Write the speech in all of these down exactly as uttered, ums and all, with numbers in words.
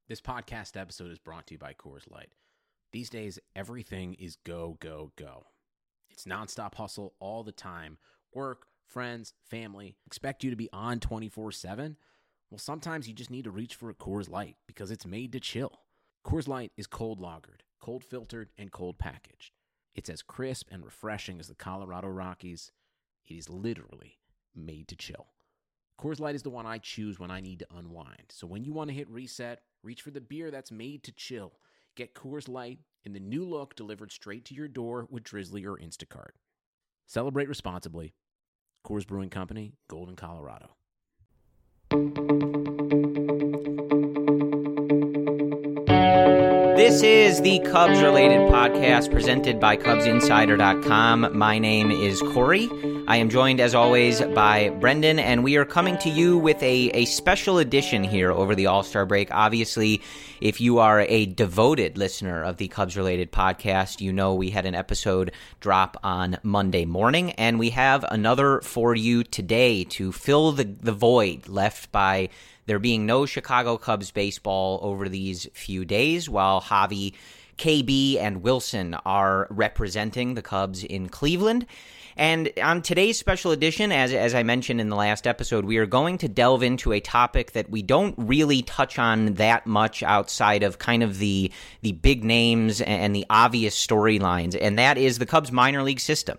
This podcast episode is brought to you by Coors Light. These days, everything is go, go, go. It's nonstop hustle all the time. Work, friends, family, expect you to be on twenty-four seven? Well, sometimes you just need to reach for a Coors Light because it's made to chill. Coors Light is cold lagered, cold filtered, and cold packaged. It's as crisp and refreshing as the Colorado Rockies. It is literally made to chill. Coors Light is the one I choose when I need to unwind. So when you want to hit reset, reach for the beer that's made to chill. Get Coors Light in the new look delivered straight to your door with Drizzly or Instacart. Celebrate responsibly. Coors Brewing Company, Golden, Colorado. This is the Cubs-related podcast presented by Cubs Insider dot com. My name is Corey. I am joined, as always, by Brendan, and we are coming to you with a, a special edition here over the All-Star break. Obviously, if you are a devoted listener of the Cubs-related podcast, you know we had an episode drop on Monday morning, and we have another for you today to fill the, the void left by there being no Chicago Cubs baseball over these few days, while Javi, K B, and Wilson are representing the Cubs in Cleveland. And on today's special edition, as as I mentioned in the last episode, we are going to delve into a topic that we don't really touch on that much outside of kind of the the big names and the obvious storylines, and that is the Cubs minor league system.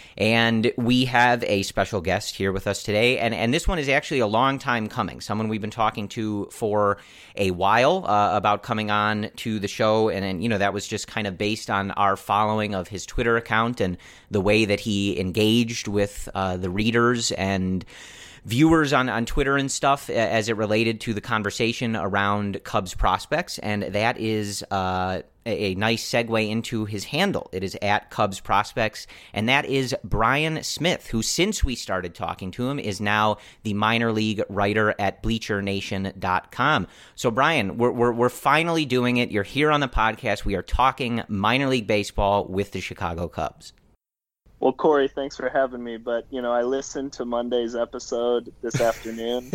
And we have a special guest here with us today, and, and this one is actually a long time coming, someone we've been talking to for a while uh, about coming on to the show, and, and, you know, that was just kind of based on our following of his Twitter account and the way that he engaged with uh, the readers and viewers on, on Twitter and stuff as it related to the conversation around Cubs prospects, and that is uh, a, a nice segue into his handle. It is at Cubs Prospects, and that is Brian Smith, who, since we started talking to him, is now the minor league writer at Bleacher Nation dot com. So, Brian, we're, we're, we're finally doing it. You're here on the podcast. We are talking minor league baseball with the Chicago Cubs. Well, Corey, thanks for having me. But, you know, I listened to Monday's episode this afternoon,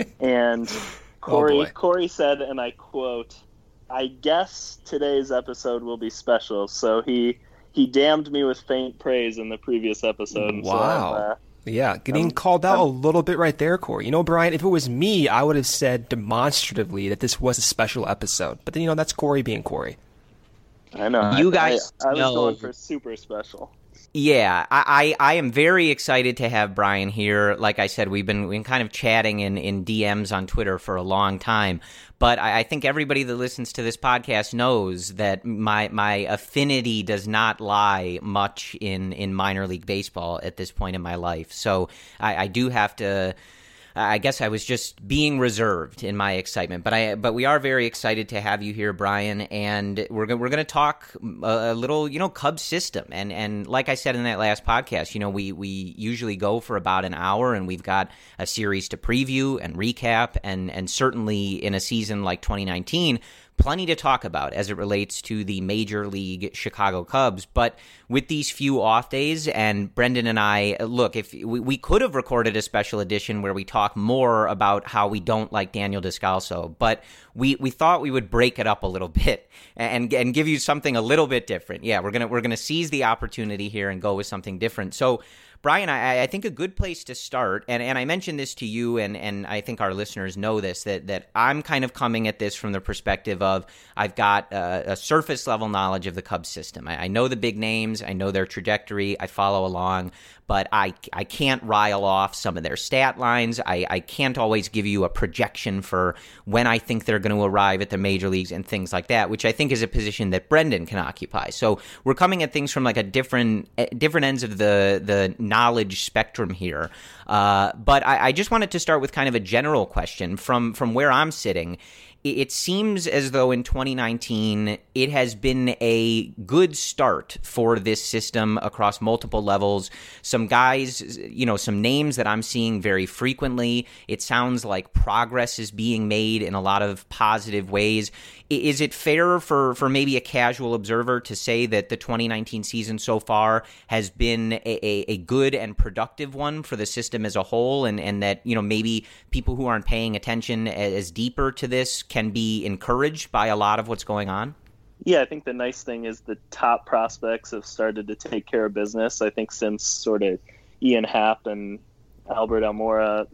and Corey, oh Corey said, and I quote, "I guess today's episode will be special." So he he damned me with faint praise in the previous episode. Wow. So I'm, uh, yeah, getting I'm, called out I'm, a little bit right there, Corey. You know, Brian, if it was me, I would have said demonstratively that this was a special episode. But then, you know, that's Corey being Corey. I know. You I, guys I, I was know. going for super special. Yeah, I, I, I am very excited to have Brian here. Like I said, we've been, we've been kind of chatting in, in D Ms on Twitter for a long time. But I, I think everybody that listens to this podcast knows that my my affinity does not lie much in, in minor league baseball at this point in my life. So I, I do have to... I guess I was just being reserved in my excitement, but I but we are very excited to have you here, Brian, and we're we're going to talk a, a little, you know, Cubs system, and and like I said in that last podcast, you know, we we usually go for about an hour, and we've got a series to preview and recap, and and certainly in a season like twenty nineteen. Plenty to talk about as it relates to the Major League Chicago Cubs. But with these few off days, and Brendan and I, look, if we, we could have recorded a special edition where we talk more about how we don't like Daniel Descalso, but we, we thought we would break it up a little bit and and give you something a little bit different. Yeah, we're gonna we're gonna seize the opportunity here and go with something different. So, Brian, I, I think a good place to start, and, and I mentioned this to you, and, and I think our listeners know this, that, that I'm kind of coming at this from the perspective of I've got a, a surface-level knowledge of the Cubs system. I, I know the big names, I know their trajectory, I follow along, but I, I can't rile off some of their stat lines. I, I can't always give you a projection for when I think they're going to arrive at the major leagues and things like that, which I think is a position that Brendan can occupy. So we're coming at things from like a different different ends of the the knowledge spectrum here. Uh, but I, I just wanted to start with kind of a general question from from where I'm sitting. It seems as though in twenty nineteen, it has been a good start for this system across multiple levels. Some guys, you know, some names that I'm seeing very frequently. It sounds like progress is being made in a lot of positive ways. Is it fair for, for maybe a casual observer to say that the twenty nineteen season so far has been a, a, a good and productive one for the system as a whole, and, and that, you know, maybe people who aren't paying attention as deeper to this can be encouraged by a lot of what's going on? Yeah, I think the nice thing is the top prospects have started to take care of business. I think since sort of Ian Happ and Albert Almora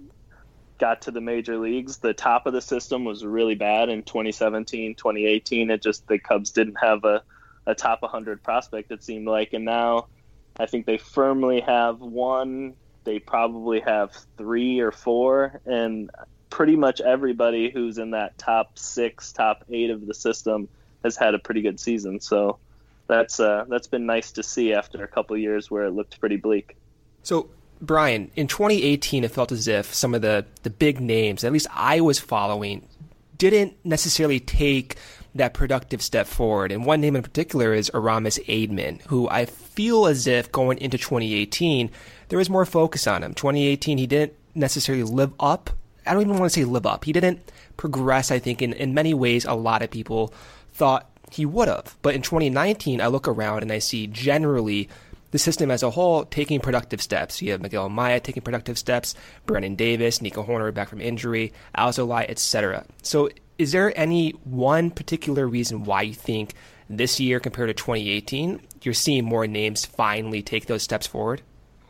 got to the major leagues, the top of the system was really bad in twenty seventeen, twenty eighteen. It just, the Cubs didn't have a, a top one hundred prospect, it seemed like. And now I think they firmly have one. They probably have three or four. And pretty much everybody who's in that top six, top eight of the system has had a pretty good season. So that's uh, that's been nice to see after a couple of years where it looked pretty bleak. So, Brian, in twenty eighteen, it felt as if some of the, the big names, at least I was following, didn't necessarily take that productive step forward. And one name in particular is Aramis Aidman, who I feel as if going into twenty eighteen, there was more focus on him. twenty eighteen, he didn't necessarily live up. I don't even want to say live up. He didn't progress, I think, in, in many ways a lot of people thought he would have. But in twenty nineteen, I look around and I see generally the system as a whole taking productive steps. You have Miguel Amaya taking productive steps, Brennan Davis, Nico Horner back from injury, Alzolay, et cetera. So is there any one particular reason why you think this year compared to twenty eighteen, you're seeing more names finally take those steps forward?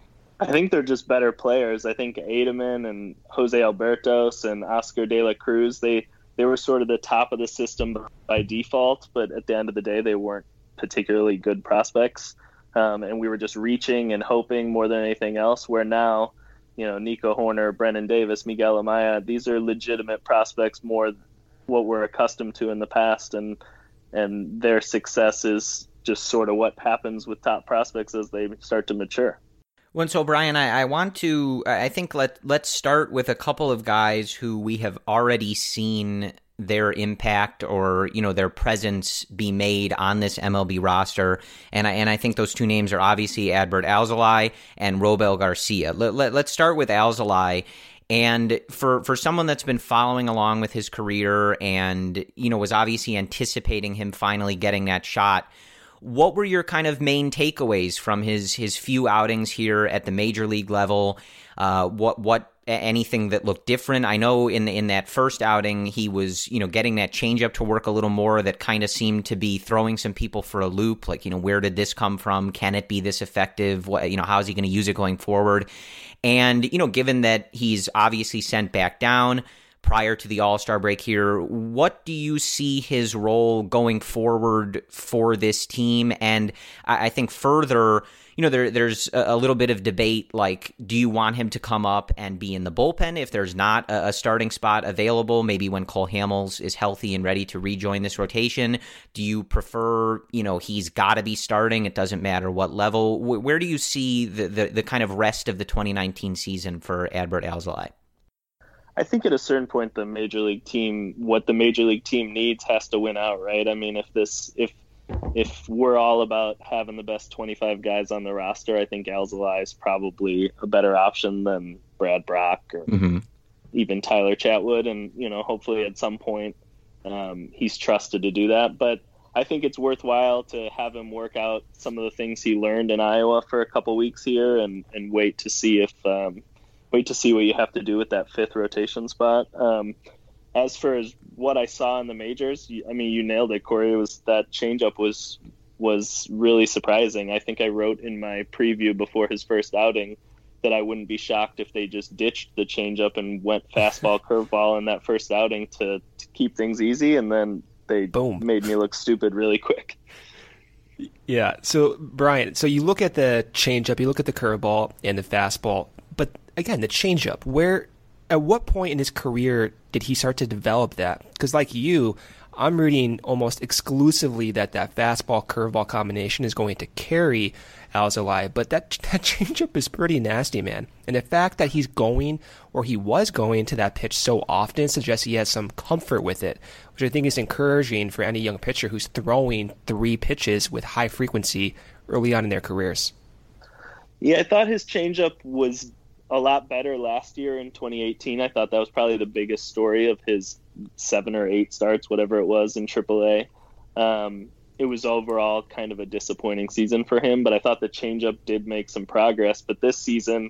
I think they're just better players. I think Aidman and Jose Albertos and Oscar De La Cruz, they, they were sort of the top of the system by default, but at the end of the day, they weren't particularly good prospects. Um, and we were just reaching and hoping more than anything else, where now, you know, Nico Horner, Brennan Davis, Miguel Amaya, these are legitimate prospects, more what we're accustomed to in the past. And, and their success is just sort of what happens with top prospects as they start to mature. Well, so Brian, I, I want to, I think let, let's start with a couple of guys who we have already seen their impact or, you know, their presence be made on this M L B roster. And I, and I think those two names are obviously Adbert Alzolay and Robel Garcia. Let, let, let's start with Alzolay. And for, for someone that's been following along with his career and, you know, was obviously anticipating him finally getting that shot, what were your kind of main takeaways from his his few outings here at the major league level? Uh, what what anything that looked different? I know in in that first outing he was, you know, getting that changeup to work a little more. That kind of seemed to be throwing some people for a loop. Like, you know, where did this come from? Can it be this effective? What, you know, how is he going to use it going forward? And, you know, given that he's obviously sent back down prior to the All-Star break here, what do you see his role going forward for this team? And I, I think further, you know, there, there's a, a little bit of debate, like, do you want him to come up and be in the bullpen if there's not a, a starting spot available, maybe when Cole Hamels is healthy and ready to rejoin this rotation? Do you prefer, you know, he's got to be starting, it doesn't matter what level? W- where do you see the, the, the kind of rest of the twenty nineteen season for Adbert Alzolay? I think at a certain point, the major league team, what the major league team needs has to win out, right? I mean, if this, if, if we're all about having the best twenty-five guys on the roster, I think Alzolay is probably a better option than Brad Brock or mm-hmm. even Tyler Chatwood. And, you know, hopefully at some point um, he's trusted to do that. But I think it's worthwhile to have him work out some of the things he learned in Iowa for a couple weeks here and, and wait to see if, um, wait to see what you have to do with that fifth rotation spot. Um, as for as what I saw in the majors, I mean, you nailed it, Corey. It was that changeup was was really surprising. I think I wrote in my preview before his first outing that I wouldn't be shocked if they just ditched the changeup and went fastball, curveball in that first outing to, to keep things easy, and then they Boom. made me look stupid really quick. Yeah. So Brian, so you look at the changeup, you look at the curveball and the fastball. But again, the changeup, where, at what point in his career did he start to develop that? Because like you, I'm reading almost exclusively that that fastball curveball combination is going to carry Alzolay, but that that changeup is pretty nasty, man. And the fact that he's going, or he was going to that pitch so often suggests he has some comfort with it, which I think is encouraging for any young pitcher who's throwing three pitches with high frequency early on in their careers. Yeah, I thought his changeup was a lot better last year in twenty eighteen. I thought that was probably the biggest story of his seven or eight starts, whatever it was, in triple A. Um, it was overall kind of a disappointing season for him, but I thought the changeup did make some progress. But this season,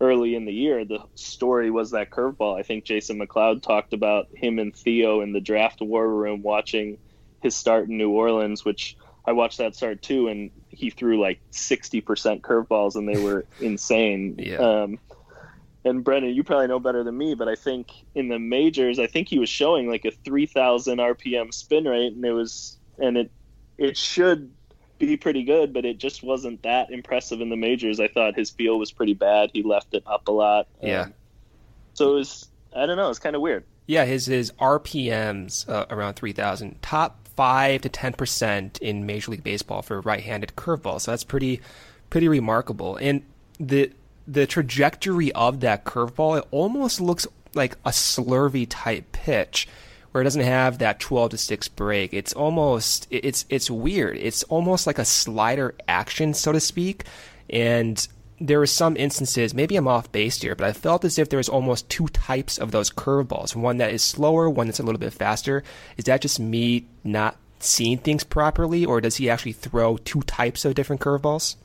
early in the year, the story was that curveball. I think Jason McLeod talked about him and Theo in the draft war room watching his start in New Orleans, which I watched that start too, and he threw like sixty percent curveballs, and they were insane. Yeah. Um, and Brendan, you probably know better than me, but I think in the majors, I think he was showing like a three thousand R P M spin rate, and it was, and it, it should be pretty good, but it just wasn't that impressive in the majors. I thought his feel was pretty bad. He left it up a lot. Yeah. Um, so it was, I don't know, it's kind of weird. Yeah, his his R P Ms uh, around three thousand, top five to ten percent in Major League Baseball for right-handed curveball. So that's pretty pretty remarkable. And the the trajectory of that curveball, it almost looks like a slurvy type pitch, where it doesn't have that twelve to six break. It's almost, it's it's weird. It's almost like a slider action, so to speak. And there were some instances, maybe I'm off base here, but I felt as if there was almost two types of those curveballs. One that is slower, one that's a little bit faster. Is that just me not seeing things properly, or does he actually throw two types of different curveballs?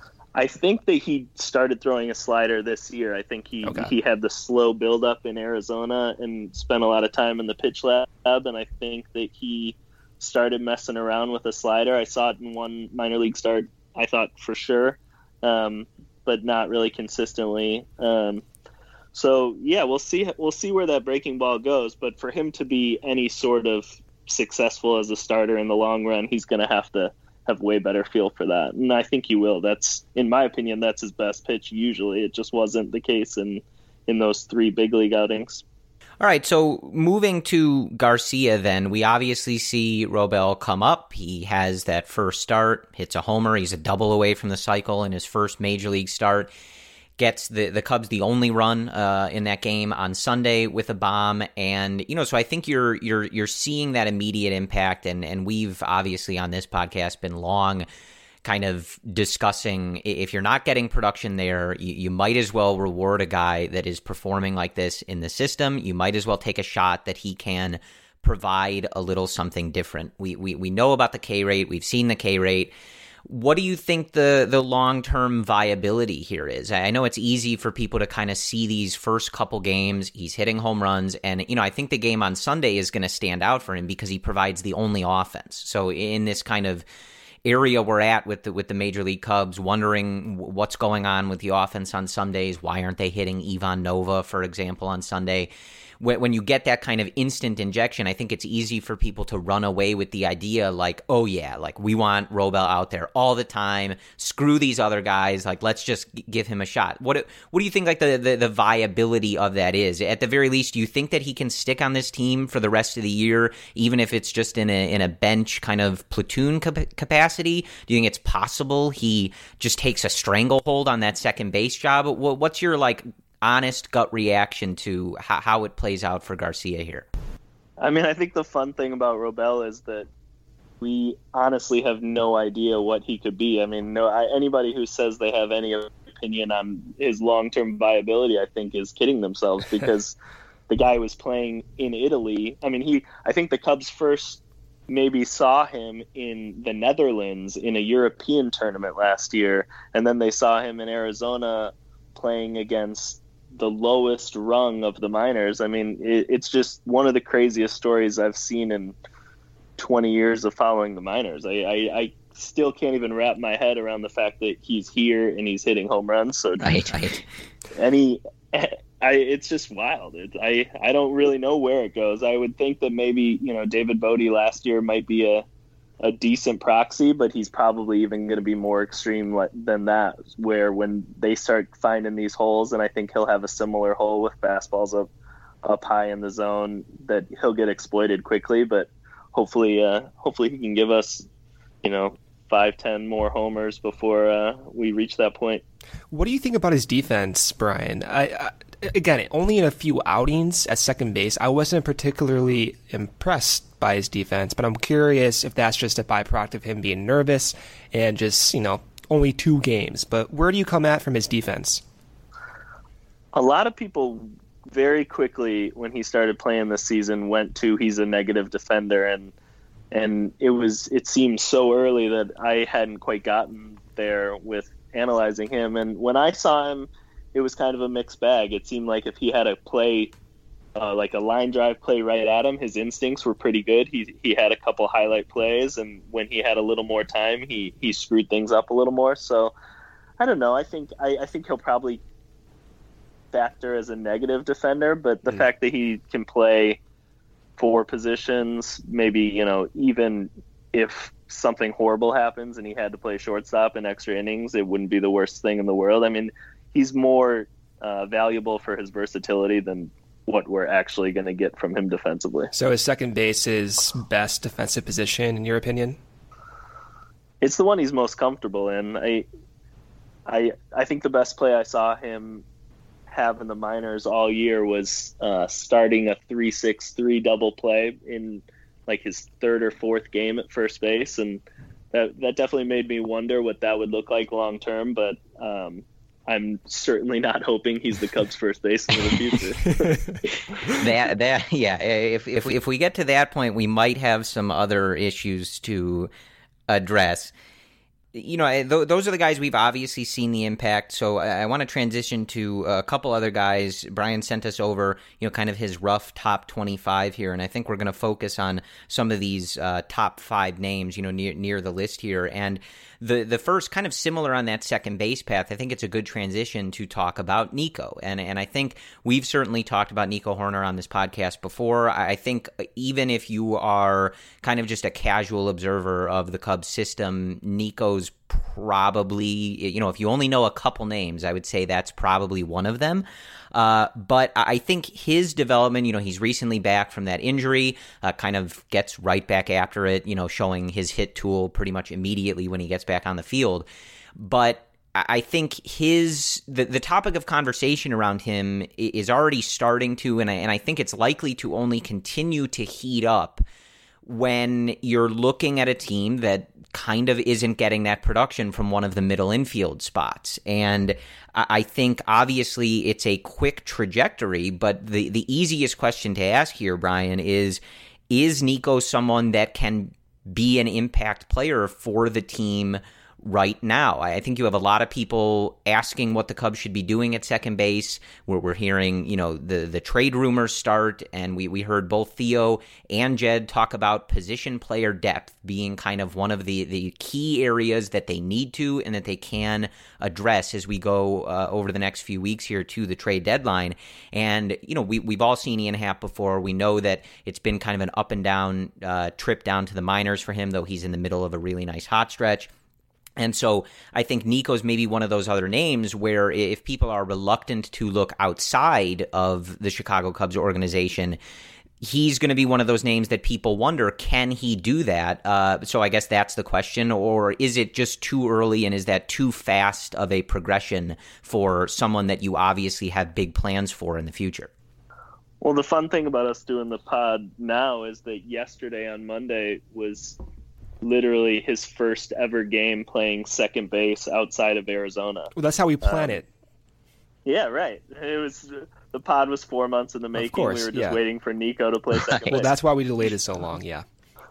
I think that he started throwing a slider this year. I think he, okay. he had the slow buildup in Arizona and spent a lot of time in the pitch lab, and I think that he started messing around with a slider. I saw it in one minor league start, I thought for sure, um, but not really consistently. Um, so, yeah, we'll see we'll see where that breaking ball goes, but for him to be any sort of successful as a starter in the long run, he's going to have to have way better feel for that. And I think he will. That's, in my opinion, that's his best pitch usually. It just wasn't the case in, in those three big league outings. All right, so moving to Garcia then, we obviously see Robel come up. He has that first start, hits a homer. He's a double away from the cycle in his first major league start. Gets the, the Cubs the only run uh, in that game on Sunday with a bomb, and you know, so I think you're you're you're seeing that immediate impact, and and we've obviously on this podcast been long kind of discussing if you're not getting production there, you, you might as well reward a guy that is performing like this in the system. You might as well take a shot that he can provide a little something different. We we we know about the K rate, we've seen the K rate. What do you think the, the long-term viability here is? I know it's easy for people to kind of see these first couple games. He's hitting home runs, and you know I think the game on Sunday is going to stand out for him because he provides the only offense. So in this kind of area we're at with the, with the Major League Cubs, wondering what's going on with the offense on Sundays, why aren't they hitting Ivan Nova, for example, on Sunday? When you get that kind of instant injection, I think it's easy for people to run away with the idea like, oh yeah, like we want Robel out there all the time. Screw these other guys. Like let's just give him a shot. What what do you think like the, the, the viability of that is? At the very least, do you think that he can stick on this team for the rest of the year, even if it's just in a in a bench kind of platoon cap- capacity? Do you think it's possible he just takes a stranglehold on that second base job? What's your like honest gut reaction to how, how it plays out for Garcia here? I mean, I think the fun thing about Robel is that we honestly have no idea what he could be. I mean, no, I, anybody who says they have any opinion on his long-term viability, I think is kidding themselves because the guy was playing in Italy. I mean, he, I think the Cubs first maybe saw him in the Netherlands in a European tournament last year, and then they saw him in Arizona playing against the lowest rung of the minors. I mean, it, it's just one of the craziest stories I've seen in twenty years of following the minors. I, I, I still can't even wrap my head around the fact that he's here and he's hitting home runs. So right, right. any, I, it's just wild. It, I, I don't really know where it goes. I would think that maybe, you know, David Bodie last year might be a, a decent proxy, but he's probably even going to be more extreme than that, where when they start finding these holes, and I think he'll have a similar hole with fastballs up up high in the zone, that he'll get exploited quickly. But hopefully uh hopefully he can give us, you know, five ten more homers before uh we reach that point. What do you think about his defense, Brian? I, I again, only in a few outings at second base, I wasn't particularly impressed by his defense, but I'm curious if that's just a byproduct of him being nervous and just, you know, only two games. But where do you come at from his defense? A lot of people very quickly, when he started playing this season, went to he's a negative defender, and and it was it seemed so early that I hadn't quite gotten there with analyzing him. And when I saw him it was kind of a mixed bag. It seemed like if he had a play, uh, like a line drive play right at him, his instincts were pretty good. He he had a couple highlight plays, and when he had a little more time, he he screwed things up a little more. So I don't know. I think I, I think he'll probably factor as a negative defender, but the mm. fact that he can play four positions, maybe, you know, even if something horrible happens and he had to play shortstop in extra innings, it wouldn't be the worst thing in the world. I mean, he's more uh, valuable for his versatility than what we're actually going to get from him defensively. So is second base his best defensive position, in your opinion? It's the one he's most comfortable in. I, I, I think the best play I saw him have in the minors all year was uh, starting a three six three double play in like his third or fourth game at first base, and that that definitely made me wonder what that would look like long term. But um, I'm certainly not hoping he's the Cubs' first baseman in the future. that that yeah, if if if we get to that point, we might have some other issues to address. You know, th- those are the guys we've obviously seen the impact. So I, I want to transition to a couple other guys. Brian sent us over, you know, kind of his rough top twenty-five here, and I think we're going to focus on some of these uh, top five names, you know, near near the list here. And the the first, kind of similar on that second base path, I think it's a good transition to talk about Nico. And and I think we've certainly talked about Nico Hoerner on this podcast before. I think even if you are kind of just a casual observer of the Cubs system, Nico's probably, you know, if you only know a couple names, I would say that's probably one of them. Uh, but I think his development, you know, he's recently back from that injury, uh, kind of gets right back after it, you know, showing his hit tool pretty much immediately when he gets back on the field. But I think his the, the topic of conversation around him is already starting to, and I, and I think it's likely to only continue to heat up when you're looking at a team that kind of isn't getting that production from one of the middle infield spots. And I think obviously it's a quick trajectory, but the, the easiest question to ask here, Brian, is, is Nico someone that can be an impact player for the team right now? I think you have a lot of people asking what the Cubs should be doing at second base. Where we're hearing, you know, the the trade rumors start, and we, we heard both Theo and Jed talk about position player depth being kind of one of the, the key areas that they need to and that they can address as we go uh, over the next few weeks here to the trade deadline. And, you know, we, we've all seen Ian Happ before. We know that it's been kind of an up and down uh, trip down to the minors for him, though he's in the middle of a really nice hot stretch. And so I think Nico's maybe one of those other names where if people are reluctant to look outside of the Chicago Cubs organization, he's going to be one of those names that people wonder, can he do that? Uh, so I guess that's the question, or is it just too early and is that too fast of a progression for someone that you obviously have big plans for in the future? Well, the fun thing about us doing the pod now is that yesterday on Monday was literally his first ever game playing second base outside of Arizona. Well, that's how we plan um, it. Yeah, right. It was the pod was four months in the making. Of course, we were just yeah. waiting for Nico to play second base. Well, that's why we delayed it so long, yeah.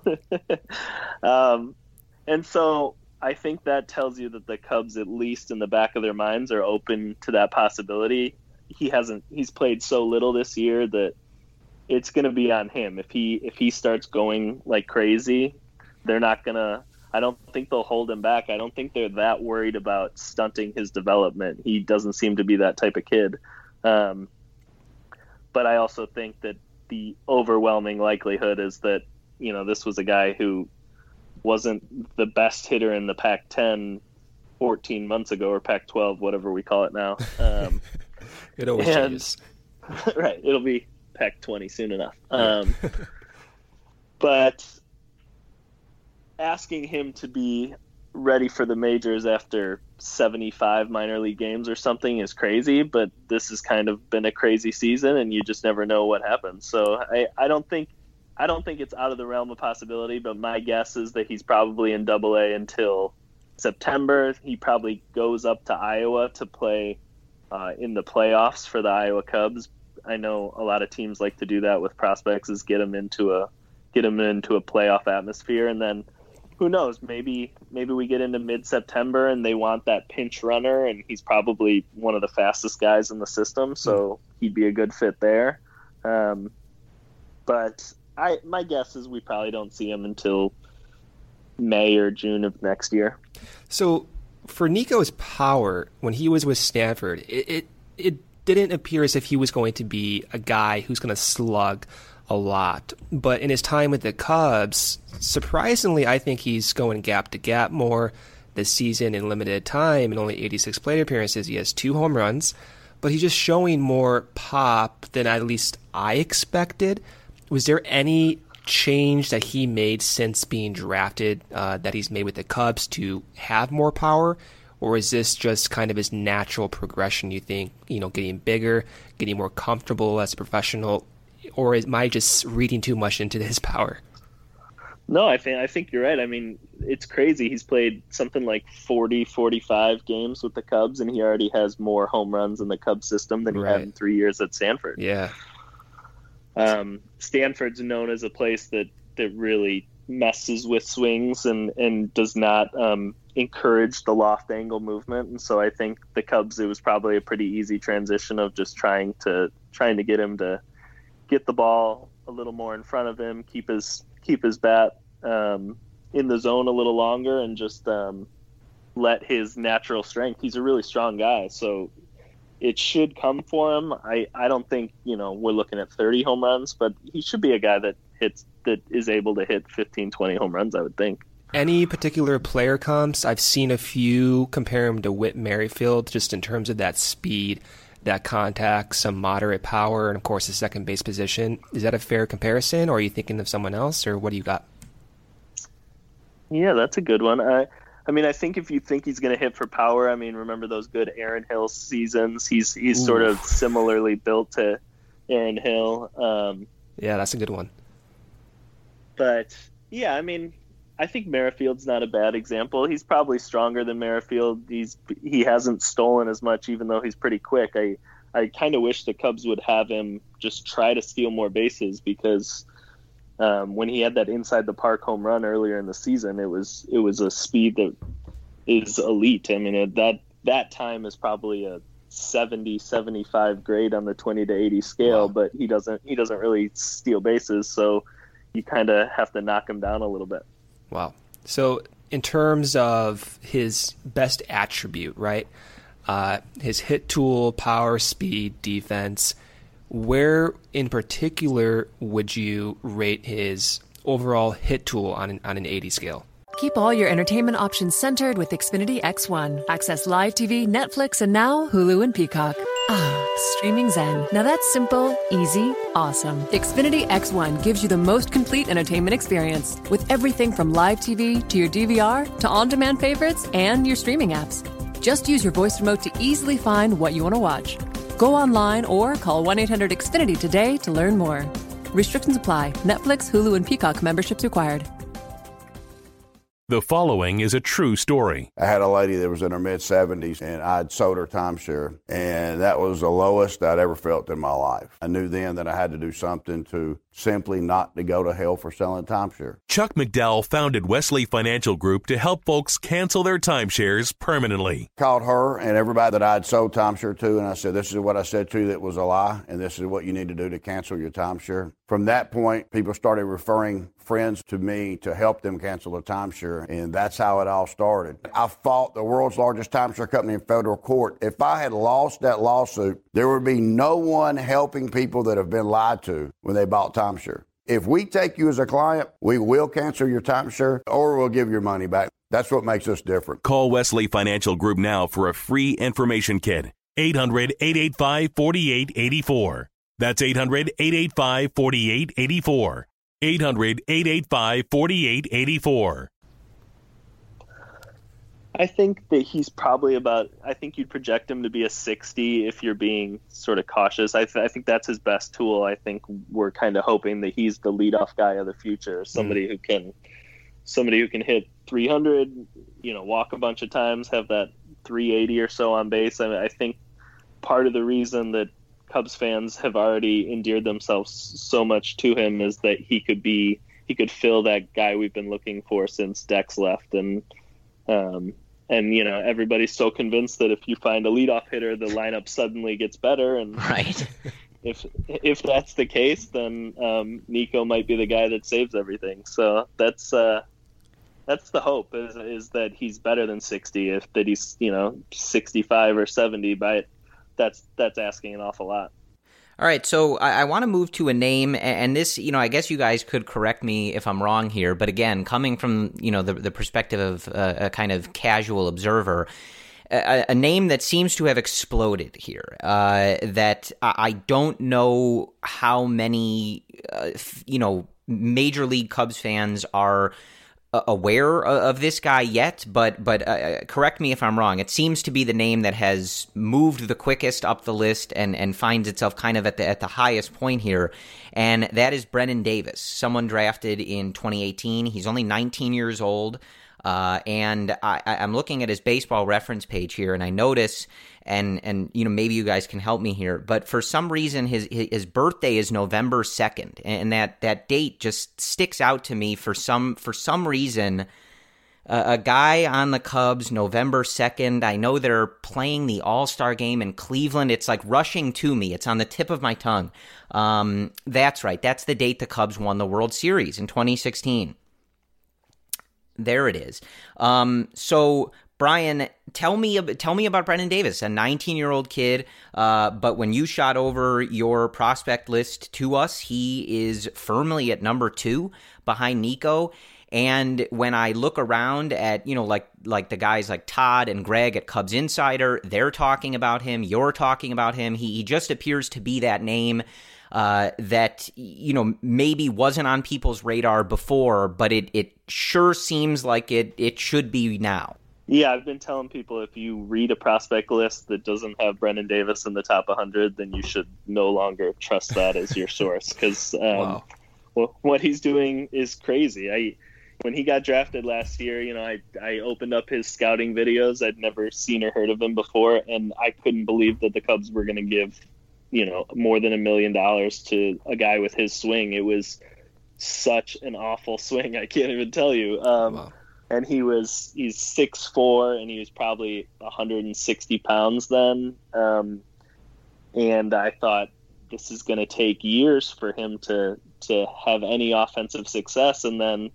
um, and so I think that tells you that the Cubs, at least in the back of their minds, are open to that possibility. He hasn't. He's played so little this year that it's going to be on him. If he if he starts going like crazy, they're not going to – I don't think they'll hold him back. I don't think they're that worried about stunting his development. He doesn't seem to be that type of kid. Um, but I also think that the overwhelming likelihood is that, you know, this was a guy who wasn't the best hitter in the Pac ten fourteen months ago, or Pac twelve, whatever we call it now. Um, it always and, changes. Right. It'll be Pac twenty soon enough. Um, but – asking him to be ready for the majors after seventy-five minor league games or something is crazy, but this has kind of been a crazy season and you just never know what happens. So I, I don't think I don't think it's out of the realm of possibility, but my guess is that he's probably in Double A until September. He probably goes up to Iowa to play uh, in the playoffs for the Iowa Cubs. I know a lot of teams like to do that with prospects, is get them into a get them into a playoff atmosphere, and then who knows? Maybe maybe we get into mid-September and they want that pinch runner, and he's probably one of the fastest guys in the system, so he'd be a good fit there. Um, but I my guess is we probably don't see him until May or June of next year. So for Nico's power, when he was with Stanford, it, it it didn't appear as if he was going to be a guy who's going to slug a lot. But in his time with the Cubs, surprisingly, I think he's going gap to gap more this season in limited time. In only eighty-six plate appearances, he has two home runs, but he's just showing more pop than at least I expected. Was there any change that he made since being drafted uh, that he's made with the Cubs to have more power? Or is this just kind of his natural progression, you think, you know, getting bigger, getting more comfortable as a professional? Or am I just reading too much into his power? No, I think I think you're right. I mean, it's crazy. He's played something like forty, forty-five games with the Cubs, and he already has more home runs in the Cubs system than he Right. had in three years at Stanford. Yeah. Um, Stanford's known as a place that, that really messes with swings and, and does not um, encourage the loft angle movement. And so I think the Cubs, it was probably a pretty easy transition of just trying to trying to get him to get the ball a little more in front of him, keep his keep his bat um, in the zone a little longer, and just um, let his natural strength. He's a really strong guy, so it should come for him. I, I don't think, you know, we're looking at thirty home runs, but he should be a guy that hits that is able to hit fifteen, twenty home runs, I would think. Any particular player comps? I've seen a few compare him to Whit Merrifield, just in terms of that speed, that contact, some moderate power, and of course the second base position. Is that a fair comparison, or are you thinking of someone else, or what do you got? Yeah, that's a good one. I, I mean, I think if you think he's going to hit for power, I mean, remember those good Aaron Hill seasons? He's he's Ooh. sort of similarly built to Aaron Hill. Um, yeah, that's a good one. But yeah, I mean, I think Merrifield's not a bad example. He's probably stronger than Merrifield. He's he hasn't stolen as much, even though he's pretty quick. I I kind of wish the Cubs would have him just try to steal more bases, because um, when he had that inside the park home run earlier in the season, it was it was a speed that is elite. I mean, it, that that time is probably a seventy, seventy-five grade on the twenty to eighty scale, wow. but he doesn't he doesn't really steal bases, so you kind of have to knock him down a little bit. Wow. So in terms of his best attribute, right, uh, his hit tool, power, speed, defense, where in particular would you rate his overall hit tool on an, on an eighty scale? Keep all your entertainment options centered with Xfinity X one. Access live T V, Netflix, and now Hulu and Peacock. Ah, streaming zen. Now that's simple, easy, awesome. Xfinity X one gives you the most complete entertainment experience with everything from live T V to your D V R to on-demand favorites and your streaming apps. Just use your voice remote to easily find what you want to watch. Go online or call one eight hundred X Finity today to learn more. Restrictions apply. Netflix, Hulu, and Peacock memberships required. The following is a true story. I had a lady that was in her mid-seventies, and I'd sold her timeshare, and that was the lowest I'd ever felt in my life. I knew then that I had to do something to simply not to go to hell for selling timeshare. Chuck McDowell founded Wesley Financial Group to help folks cancel their timeshares permanently. Called her and everybody that I'd sold timeshare to, and I said, this is what I said to you that was a lie, and this is what you need to do to cancel your timeshare. From that point, people started referring friends to me to help them cancel the timeshare, and that's how it all started. I fought the world's largest timeshare company in federal court. If I had lost that lawsuit, there would be no one helping people that have been lied to when they bought timeshare. If we take you as a client, we will cancel your timeshare or we'll give your money back. That's what makes us different. Call Wesley Financial Group now for a free information kit. eight hundred, eight eight five, four eight eight four. That's eight hundred, eight eight five, four eight eight four. eight hundred, eight eight five, four eight eight four. I think that he's probably about, I think you'd project him to be a sixty if you're being sort of cautious. I, th- I think that's his best tool. I think we're kind of hoping that he's the leadoff guy of the future, somebody mm. who can somebody who can hit three hundred, you know, walk a bunch of times, have that three eighty or so on base. I mean, I think part of the reason that Cubs fans have already endeared themselves so much to him is that he could be he could fill that guy we've been looking for since Dex left. And, um, and, you know, everybody's so convinced that if you find a leadoff hitter, the lineup suddenly gets better. And right. if, if that's the case, then, um, Nico might be the guy that saves everything. So that's, uh, that's the hope is, is that he's better than sixty. If that he's, you know, sixty-five or seventy, but that's, that's asking an awful lot. All right, so I, I want to move to a name, and this, you know, I guess you guys could correct me if I'm wrong here, but again, coming from, you know, the, the perspective of a, a kind of casual observer, a, a name that seems to have exploded here, uh, that I, I don't know how many, uh, you know, Major League Cubs fans are aware of this guy yet, but but uh, correct me if I'm wrong. It seems to be the name that has moved the quickest up the list and, and finds itself kind of at the at the highest point here, and that is Brennen Davis, someone drafted in twenty eighteen. He's only nineteen years old, uh, and I, I'm looking at his baseball reference page here, and I notice, and and you know maybe you guys can help me here, but for some reason his his birthday is November second, and that, that date just sticks out to me for some for some reason. Uh, a guy on the Cubs, November second. I know they're playing the All-Star game in Cleveland. It's like rushing to me. It's on the tip of my tongue. Um, that's right. That's the date the Cubs won the World Series in twenty sixteen. There it is. Um, so. Brian, tell me tell me about Brennen Davis, a nineteen-year-old kid, uh, but when you shot over your prospect list to us, he is firmly at number two behind Nico. And when I look around at, you know, like like the guys like Todd and Greg at Cubs Insider, they're talking about him, you're talking about him. He, he just appears to be that name uh, that, you know, maybe wasn't on people's radar before, but it, it sure seems like it it should be now. Yeah, I've been telling people if you read a prospect list that doesn't have Brennen Davis in the top one hundred, then you should no longer trust that as your source, because um, wow. well, what he's doing is crazy. I when he got drafted last year, you know, I I opened up his scouting videos. I'd never seen or heard of him before, and I couldn't believe that the Cubs were going to give, you know, more than a million dollars to a guy with his swing. It was such an awful swing. I can't even tell you. Um, wow. And he was, he's six foot four, and he was probably one hundred sixty pounds then. Um, and I thought this is going to take years for him to, to have any offensive success. And then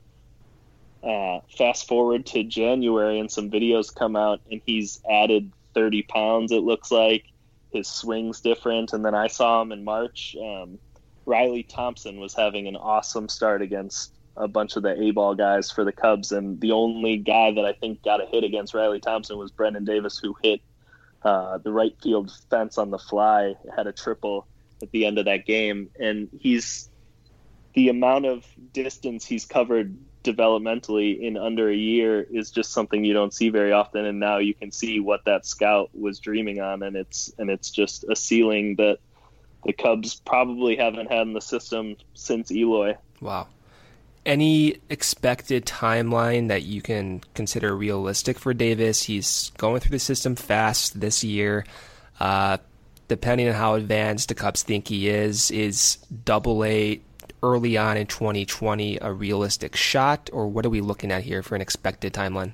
uh, fast forward to January, and some videos come out, and he's added thirty pounds, it looks like. His swing's different. And then I saw him in March. Um, Riley Thompson was having an awesome start against a bunch of the A-ball guys for the Cubs, and the only guy that I think got a hit against Riley Thompson was Brennen Davis, who hit uh, the right field fence on the fly, had a triple at the end of that game. And he's the amount of distance he's covered developmentally in under a year is just something you don't see very often. And now you can see what that scout was dreaming on, and it's and it's just a ceiling that the Cubs probably haven't had in the system since Eloy. Wow. Any expected timeline that you can consider realistic for Davis? He's going through the system fast this year. Uh, depending on how advanced the Cubs think he is, is Double A early on in twenty twenty a realistic shot, or what are we looking at here for an expected timeline?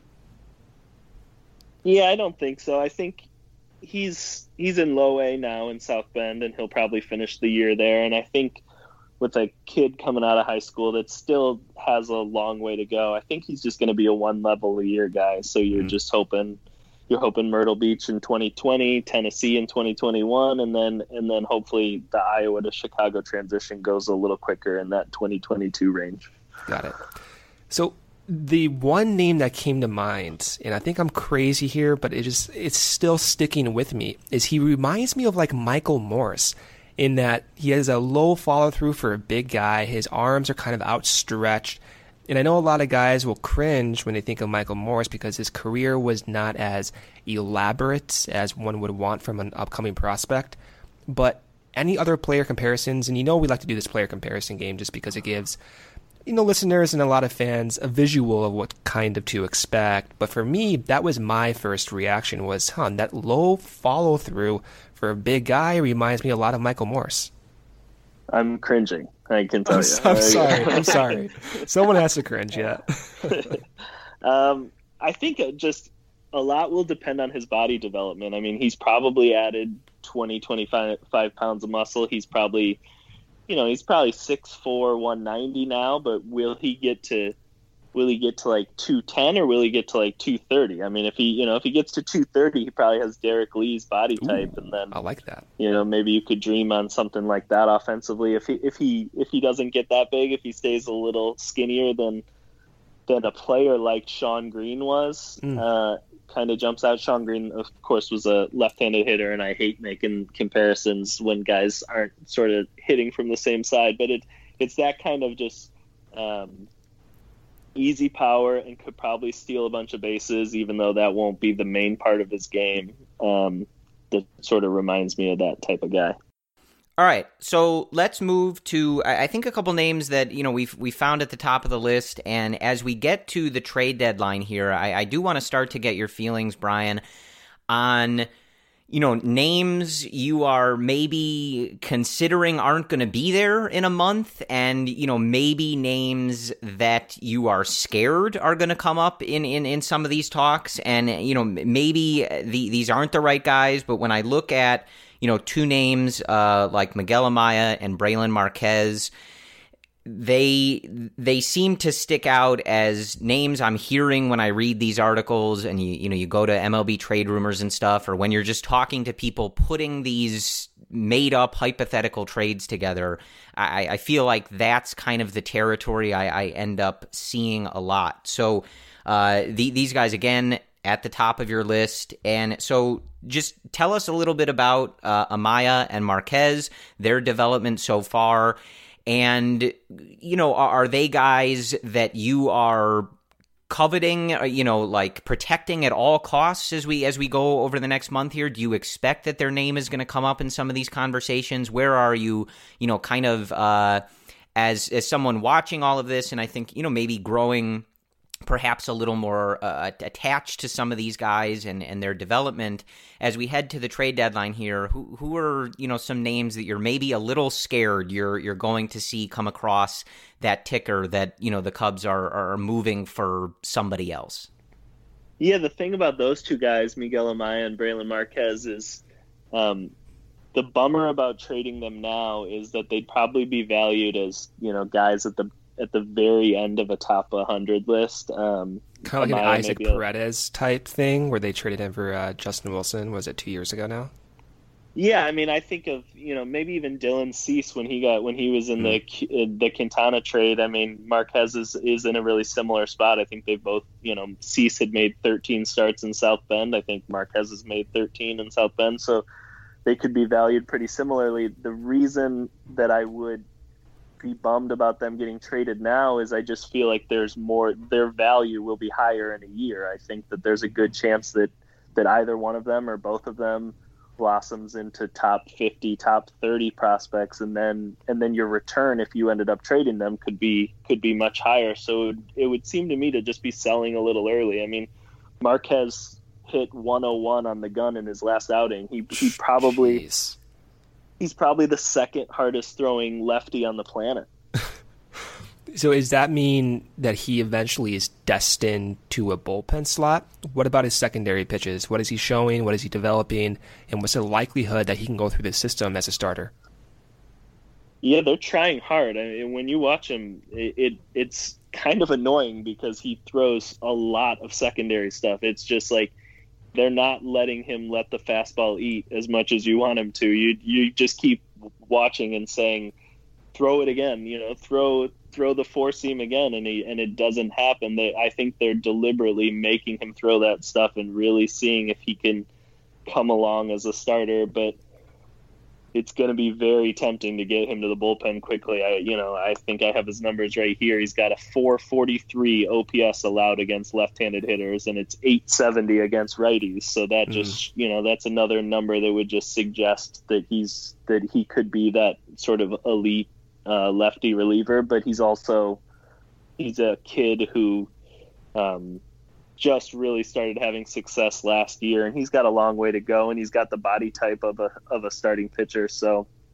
Yeah, I don't think so. I think he's he's in Low A now in South Bend, and he'll probably finish the year there. And I think with a kid coming out of high school that still has a long way to go, I think he's just going to be a one level a year guy. So you're mm-hmm. just hoping, you're hoping Myrtle Beach in twenty twenty, Tennessee in twenty twenty-one, and then and then hopefully the Iowa to Chicago transition goes a little quicker in that twenty twenty-two range. Got it. So the one name that came to mind, and I think I'm crazy here, but it just it's still sticking with me, is he reminds me of like Michael Morse, in that he has a low follow-through for a big guy. His arms are kind of outstretched. And I know a lot of guys will cringe when they think of Michael Morse because his career was not as elaborate as one would want from an upcoming prospect. But any other player comparisons, and you know we like to do this player comparison game just because it gives, you know, listeners and a lot of fans a visual of what kind of to expect. But for me, that was my first reaction was, huh, that low follow-through for a big guy reminds me a lot of Michael Morse. I'm cringing. I can tell I'm, you. I'm sorry. I'm sorry. Someone has to cringe. Yeah. um, I think it just a lot will depend on his body development. I mean, he's probably added twenty, twenty-five pounds of muscle. He's probably, you know, he's probably six foot four, one ninety now, but will he get to, will he get to like two ten or will he get to like two thirty? I mean, if he, you know, if he gets to two thirty, he probably has Derek Lee's body type. Ooh, and then I like that. You know, maybe you could dream on something like that offensively. If he, if he, if he doesn't get that big, if he stays a little skinnier than, than a player like Sean Green was, mm. uh, kind of jumps out. Sean Green, of course, was a left-handed hitter, and I hate making comparisons when guys aren't sort of hitting from the same side. But it it's that kind of just um, easy power and could probably steal a bunch of bases, even though that won't be the main part of his game. Um, that sort of reminds me of that type of guy. All right, so let's move to, I think, a couple names that, you know, we've we found at the top of the list, and as we get to the trade deadline here, I, I do want to start to get your feelings, Brian, on, you know, names you are maybe considering aren't going to be there in a month, and, you know, maybe names that you are scared are going to come up in, in, in some of these talks, and, you know, maybe the, these aren't the right guys, but when I look at, you know, two names uh, like Miguel Amaya and Brailyn Marquez, they they seem to stick out as names I'm hearing when I read these articles, and you you know you go to M L B Trade Rumors and stuff, or when you're just talking to people putting these made up hypothetical trades together. I, I feel like that's kind of the territory I, I end up seeing a lot. So uh, the, these guys again at the top of your list, and so just tell us a little bit about uh, Amaya and Marquez, their development so far, and, you know, are, are they guys that you are coveting, you know, like protecting at all costs as we as we go over the next month here? Do you expect that their name is going to come up in some of these conversations? Where are you, you know, kind of uh, as as someone watching all of this, and I think, you know, maybe growing perhaps a little more uh, attached to some of these guys and, and their development as we head to the trade deadline here? Who who are, you know, some names that you're maybe a little scared you're you're going to see come across that ticker that, you know, the Cubs are are moving for somebody else? Yeah, the thing about those two guys, Miguel Amaya and Brailyn Marquez, is um, the bummer about trading them now is that they'd probably be valued as, you know, guys at the at the very end of a top one hundred list. Um, kind of like Amaya an Isaac maybe Paredes type thing where they traded him for uh, Justin Wilson. Was it two years ago now? Yeah, I mean, I think of, you know, maybe even Dylan Cease when he got when he was in mm. the the Quintana trade. I mean, Marquez is, is in a really similar spot. I think they both, you know, Cease had made thirteen starts in South Bend. I think Marquez has made thirteen in South Bend, so they could be valued pretty similarly. The reason that I would be bummed about them getting traded now is I just feel like there's more, their value will be higher in a year. I think that there's a good chance that, that either one of them or both of them blossoms into top fifty, top thirty prospects. And then, and then your return, if you ended up trading them, could be, could be much higher. So it would, it would seem to me to just be selling a little early. I mean, Marquez hit one oh one on the gun in his last outing. He, he probably, Jeez. He's probably the second hardest throwing lefty on the planet. So does that mean that he eventually is destined to a bullpen slot? What about his secondary pitches? What is he showing? What is he developing? And what's the likelihood that he can go through the system as a starter? Yeah, they're trying hard. I mean, when you watch him, it, it it's kind of annoying because he throws a lot of secondary stuff. It's just like, they're not letting him let the fastball eat as much as you want him to. You you just keep watching and saying, throw it again, you know, throw throw the four seam again, and he, and it doesn't happen. They, I think they're deliberately making him throw that stuff and really seeing if he can come along as a starter. But it's going to be very tempting to get him to the bullpen quickly. I, you know, I think I have his numbers right here. He's got a four forty-three O P S allowed against left-handed hitters, and it's eight seventy against righties. So that mm. just, you know, that's another number that would just suggest that he's, that he could be that sort of elite uh, lefty reliever. But he's also, he's a kid who, um, just really started having success last year, and he's got a long way to go, and he's got the body type of a of a starting pitcher. So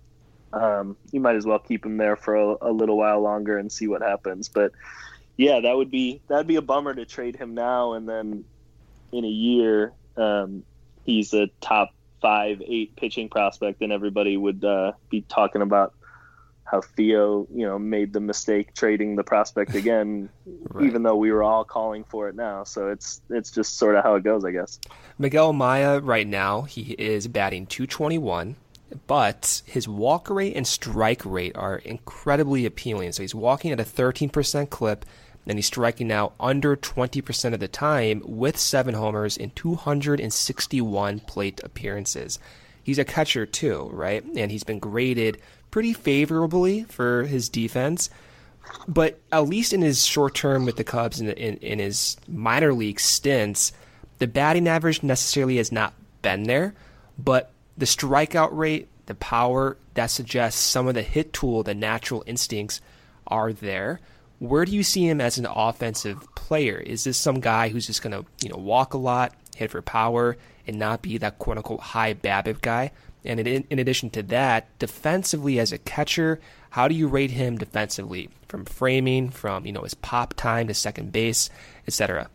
um, you might as well keep him there for a, a little while longer and see what happens. But yeah, that would be that'd be a bummer to trade him now, and then in a year um, he's a top five, eight pitching prospect, and everybody would uh, be talking about how Theo, you know, made the mistake trading the prospect again, right. even though we were all calling for it now. So it's it's just sort of how it goes, I guess. Miguel Amaya right now, he is batting two twenty-one, but his walk rate and strike rate are incredibly appealing. So he's walking at a thirteen percent clip, and he's striking out under twenty percent of the time with seven homers in two hundred sixty-one plate appearances. He's a catcher too, right? And he's been graded pretty favorably for his defense, but at least in his short term with the Cubs and in, in, in his minor league stints, the batting average necessarily has not been there, but the strikeout rate, the power, that suggests some of the hit tool, the natural instincts are there. Where do you see him as an offensive player? Is this some guy who's just going to, you know, walk a lot, hit for power, and not be that quote-unquote high BABIP guy? And in, in addition to that, defensively as a catcher, how do you rate him defensively? From framing, from, you know, his pop time to second base, et cetera?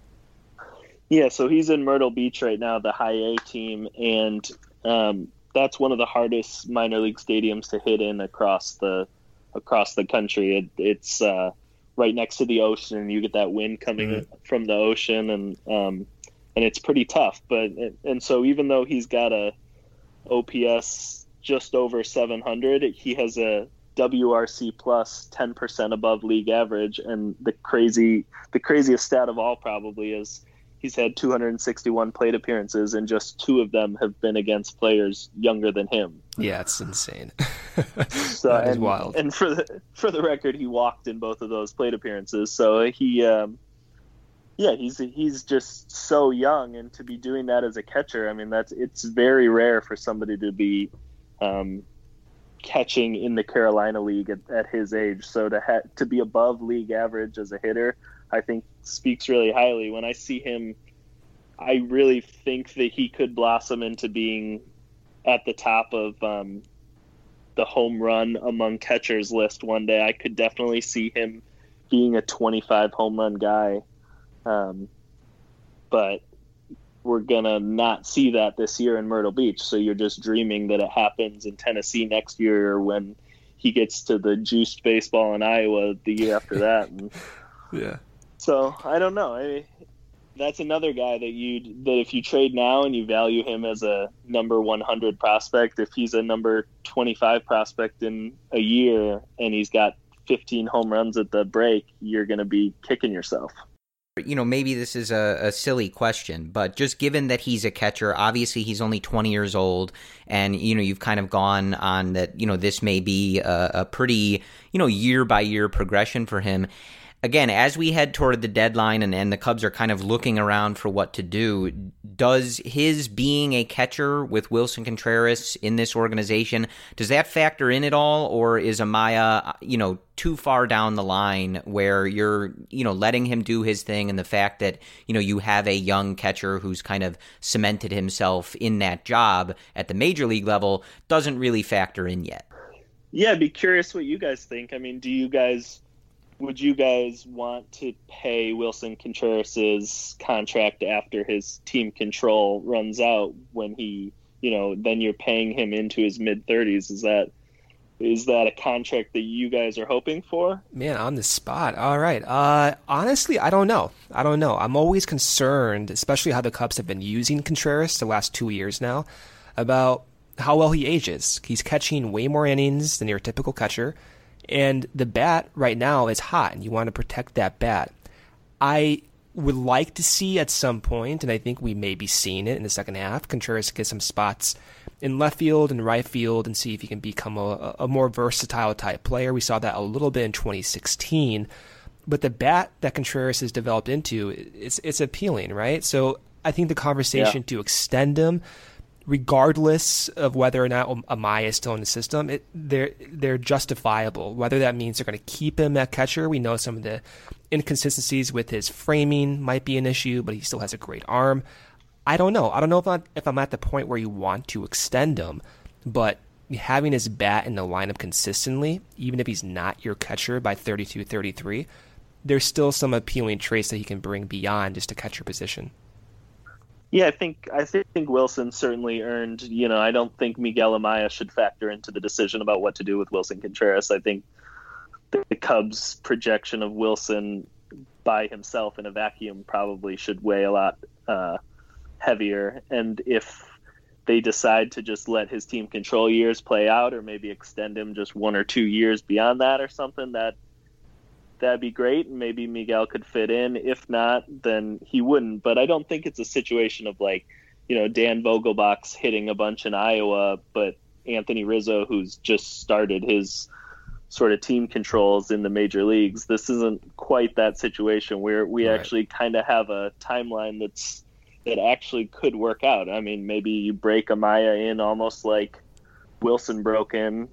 Yeah, so he's in Myrtle Beach right now, the high A team, and um, that's one of the hardest minor league stadiums to hit in across the across the country. It, it's uh, right next to the ocean. You get that wind coming mm-hmm. from the ocean, and um, and it's pretty tough. But and so even though he's got a O P S just over seven hundred, he has a W R C plus ten percent above league average, and the crazy the craziest stat of all probably is he's had two hundred sixty-one plate appearances, and just two of them have been against players younger than him. Yeah, it's insane. So that is and, wild. And for the for the record, he walked in both of those plate appearances. So he um yeah, he's he's just so young, and to be doing that as a catcher, I mean, that's it's very rare for somebody to be um, catching in the Carolina League at, at his age. So to ha- to be above league average as a hitter, I think speaks really highly. When I see him, I really think that he could blossom into being at the top of um, the home run among catchers list one day. I could definitely see him being a twenty-five home run guy. Um, but we're gonna not see that this year in Myrtle Beach. So you're just dreaming that it happens in Tennessee next year, or when he gets to the juiced baseball in Iowa the year after that. And yeah. So I don't know. I, that's another guy that you that if you trade now and you value him as a number one hundred prospect, if he's a number twenty-five prospect in a year and he's got fifteen home runs at the break, you're going to be kicking yourself. You know, maybe this is a, a silly question, but just given that he's a catcher, obviously he's only twenty years old, and, you know, you've kind of gone on that, you know, this may be a, a pretty, you know, year-by-year progression for him. Again, as we head toward the deadline and, and the Cubs are kind of looking around for what to do, does his being a catcher with Wilson Contreras in this organization, does that factor in at all, or is Amaya, you know, too far down the line where you're, you know, letting him do his thing, and the fact that, you know, you have a young catcher who's kind of cemented himself in that job at the major league level doesn't really factor in yet? Yeah, I'd be curious what you guys think. I mean, do you guys... Would you guys want to pay Wilson Contreras' contract after his team control runs out, when he, you know, then you're paying him into his mid thirties? Is that is that a contract that you guys are hoping for? Man, on the spot. All right. Uh, honestly, I don't know. I don't know. I'm always concerned, especially how the Cubs have been using Contreras the last two years now, about how well he ages. He's catching way more innings than your typical catcher. And the bat right now is hot, and you want to protect that bat. I would like to see at some point, and I think we may be seeing it in the second half, Contreras get some spots in left field and right field and see if he can become a, a more versatile type player. We saw that a little bit in twenty sixteen. But the bat that Contreras has developed into, it's, it's appealing, right? So I think the conversation yeah. to extend him, regardless of whether or not Amaya is still in the system, it, they're they're justifiable. Whether that means they're going to keep him at catcher, we know some of the inconsistencies with his framing might be an issue, but he still has a great arm. I don't know. I don't know if I'm, if I'm at the point where you want to extend him, but having his bat in the lineup consistently, even if he's not your catcher by thirty-two, thirty-three, there's still some appealing traits that he can bring beyond just a catcher position. Yeah, I think I think Wilson certainly earned, you know, I don't think Miguel Amaya should factor into the decision about what to do with Wilson Contreras. I think the Cubs' projection of Wilson by himself in a vacuum probably should weigh a lot uh, heavier. And if they decide to just let his team control years play out, or maybe extend him just one or two years beyond that or something, that that'd be great. And maybe Miguel could fit in. If not, then he wouldn't. But I don't think it's a situation of like, you know, Dan Vogelbach's hitting a bunch in Iowa, but Anthony Rizzo, who's just started his sort of team controls in the major leagues. This isn't quite that situation where we right. actually kind of have a timeline that's that actually could work out. I mean, maybe you break Amaya in almost like Wilson broke in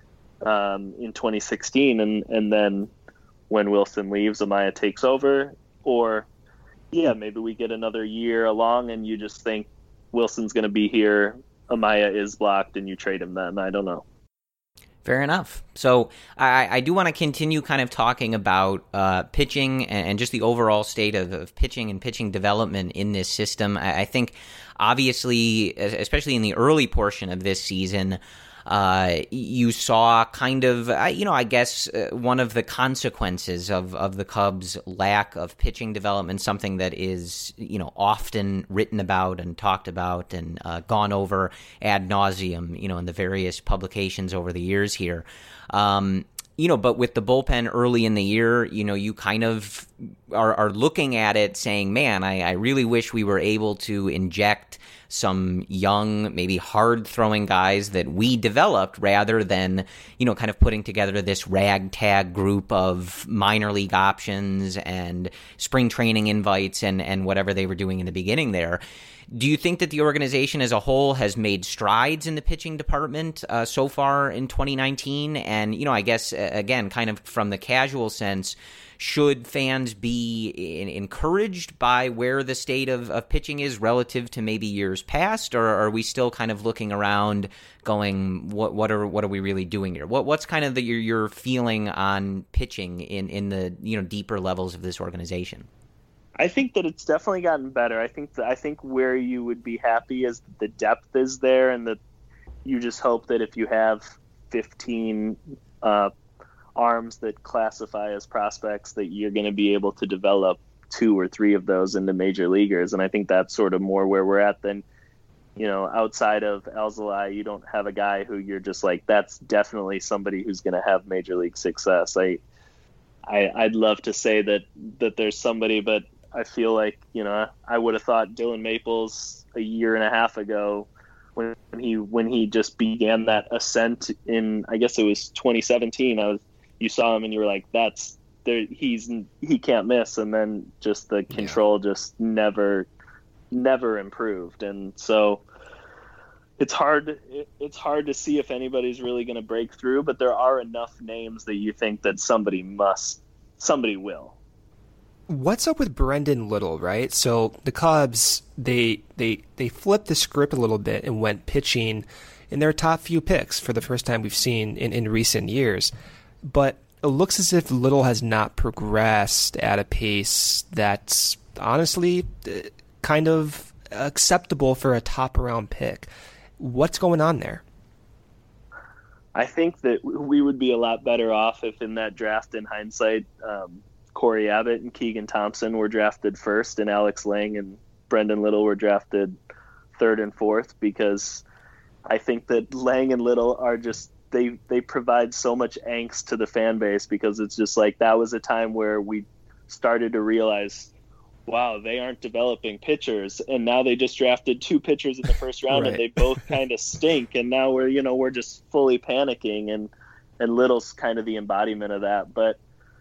um, in twenty sixteen, and, and then when Wilson leaves, Amaya takes over. Or, yeah, maybe we get another year along and you just think Wilson's going to be here, Amaya is blocked, and you trade him then. I don't know. Fair enough. So I, I do want to continue kind of talking about uh, pitching and, and just the overall state of, of pitching and pitching development in this system. I, I think, obviously, especially in the early portion of this season, uh, you saw kind of, uh, you know, I guess uh, one of the consequences of, of the Cubs' lack of pitching development, something that is, you know, often written about and talked about and uh, gone over ad nauseum, you know, in the various publications over the years here. Um, you know, but with the bullpen early in the year, you know, you kind of are, are looking at it saying, man, I, I really wish we were able to inject some young, maybe hard-throwing guys that we developed rather than, you know, kind of putting together this ragtag group of minor league options and spring training invites and, and whatever they were doing in the beginning there. Do you think that the organization as a whole has made strides in the pitching department uh, so far in twenty nineteen? And, you know, I guess, uh, again, kind of from the casual sense, should fans be in, encouraged by where the state of, of pitching is relative to maybe years past, or are we still kind of looking around going, what what are what are we really doing here? What what's kind of the, your your feeling on pitching in, in the, you know, deeper levels of this organization? I think that it's definitely gotten better. I think that I think where you would be happy is that the depth is there, and that you just hope that if you have fifteen uh, arms that classify as prospects, that you're going to be able to develop two or three of those into major leaguers. And I think that's sort of more where we're at than, you know, outside of Alzolay, you don't have a guy who you're just like, that's definitely somebody who's going to have major league success. I, I, I'd love to say that, that there's somebody, but I feel like, you know, I would have thought Dylan Maples a year and a half ago when he, when he just began that ascent in, I guess it was twenty seventeen, I was, you saw him and you were like, that's there. He's, he can't miss. And then just the control yeah. just never, never improved. And so it's hard, it's hard to see if anybody's really going to break through, but there are enough names that you think that somebody must, somebody will. What's up with Brendan Little, right? So the Cubs, they they they flipped the script a little bit and went pitching in their top few picks for the first time we've seen in, in recent years. But it looks as if Little has not progressed at a pace that's honestly kind of acceptable for a top-round pick. What's going on there? I think that we would be a lot better off if in that draft, in hindsight, um, Corey Abbott and Keegan Thompson were drafted first, and Alex Lang and Brendan Little were drafted third and fourth, because I think that Lang and Little are just, they they provide so much angst to the fan base, because it's just like, that was a time where we started to realize, wow, they aren't developing pitchers, and now they just drafted two pitchers in the first round right. and they both kind of stink, and now we're, you know, we're just fully panicking, and and Little's kind of the embodiment of that. But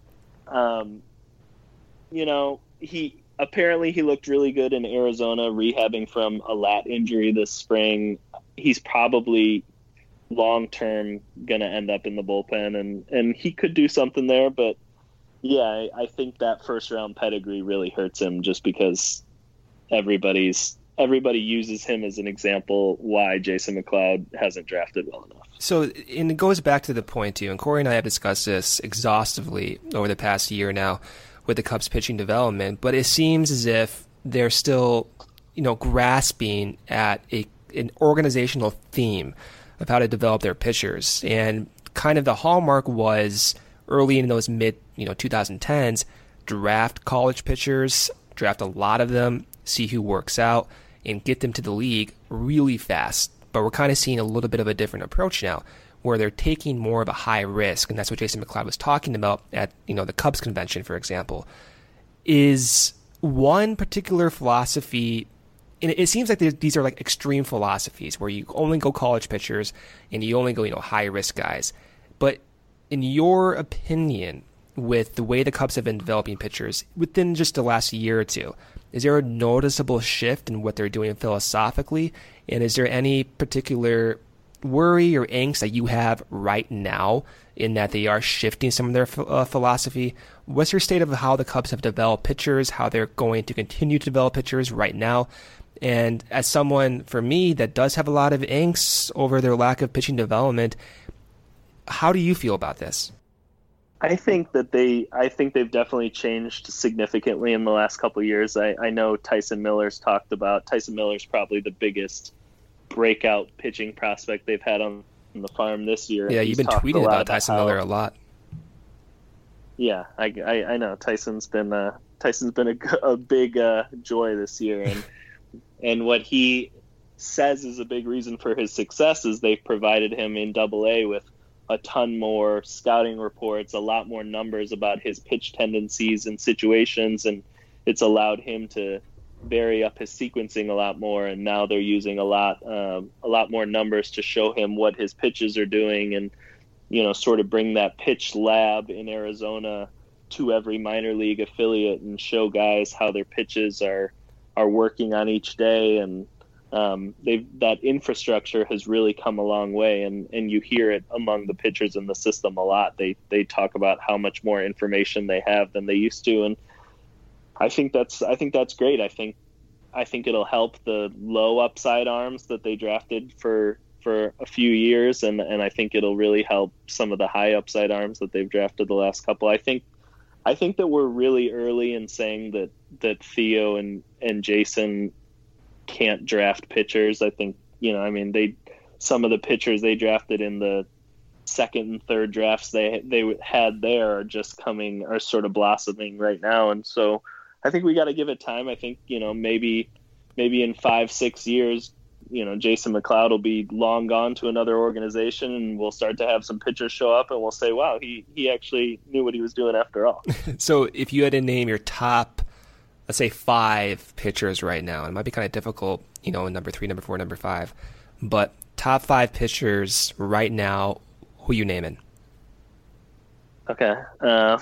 um you know, he apparently he looked really good in Arizona rehabbing from a lat injury this spring. He's probably long term gonna end up in the bullpen, and and he could do something there. But yeah, I, I think that first round pedigree really hurts him, just because everybody's everybody uses him as an example why Jason McLeod hasn't drafted well enough. So, and it goes back to the point, too, and Corey and I have discussed this exhaustively over the past year now with the Cubs pitching development, but it seems as if they're still, you know, grasping at a an organizational theme of how to develop their pitchers. And kind of the hallmark was early in those mid, you know, twenty tens, draft college pitchers, draft a lot of them, see who works out, and get them to the league really fast. But we're kind of seeing a little bit of a different approach now, where they're taking more of a high risk, and that's what Jason McLeod was talking about at, you know, the Cubs convention, for example. Is one particular philosophy, and it seems like these are like extreme philosophies, where you only go college pitchers and you only go, you know, high risk guys. But in your opinion, with the way the Cubs have been developing pitchers within just the last year or two, is there a noticeable shift in what they're doing philosophically? And is there any particular worry or angst that you have right now in that they are shifting some of their uh, philosophy? What's your state of how the Cubs have developed pitchers, how they're going to continue to develop pitchers right now? And as someone, for me, that does have a lot of angst over their lack of pitching development, how do you feel about this? I think that they, I think they've definitely changed significantly in the last couple of years. I, I know Tyson Miller's talked about, Tyson Miller's probably the biggest breakout pitching prospect they've had on, on the farm this year. Yeah, you've been tweeting about Tyson Miller a lot. Yeah, I, I, I know Tyson's been uh, Tyson's been a, a big uh, joy this year, and and what he says is a big reason for his success is they've provided him in Double A with a ton more scouting reports, a lot more numbers about his pitch tendencies and situations, and it's allowed him to vary up his sequencing a lot more. And now they're using a lot, um, a lot more numbers to show him what his pitches are doing, and you know, sort of bring that pitch lab in Arizona to every minor league affiliate and show guys how their pitches are are working on each day. And Um, they've that infrastructure has really come a long way, and, and you hear it among the pitchers in the system a lot. They they talk about how much more information they have than they used to, and I think that's I think that's great. I think I think it'll help the low upside arms that they drafted for for a few years, and, and I think it'll really help some of the high upside arms that they've drafted the last couple. I think I think that we're really early in saying that that Theo and and Jason can't draft pitchers. I think, you know, I mean, they, some of the pitchers they drafted in the second and third drafts they they had there are just coming, are sort of blossoming right now. And so I think we got to give it time. I think, you know, maybe, maybe in five, six years, you know, Jason McLeod will be long gone to another organization, and we'll start to have some pitchers show up, and we'll say, wow, he, he actually knew what he was doing after all. So if you had to name your top, let's say five pitchers right now, it might be kind of difficult, you know, number three, number four, number five, but top five pitchers right now, who you naming? Okay. Uh,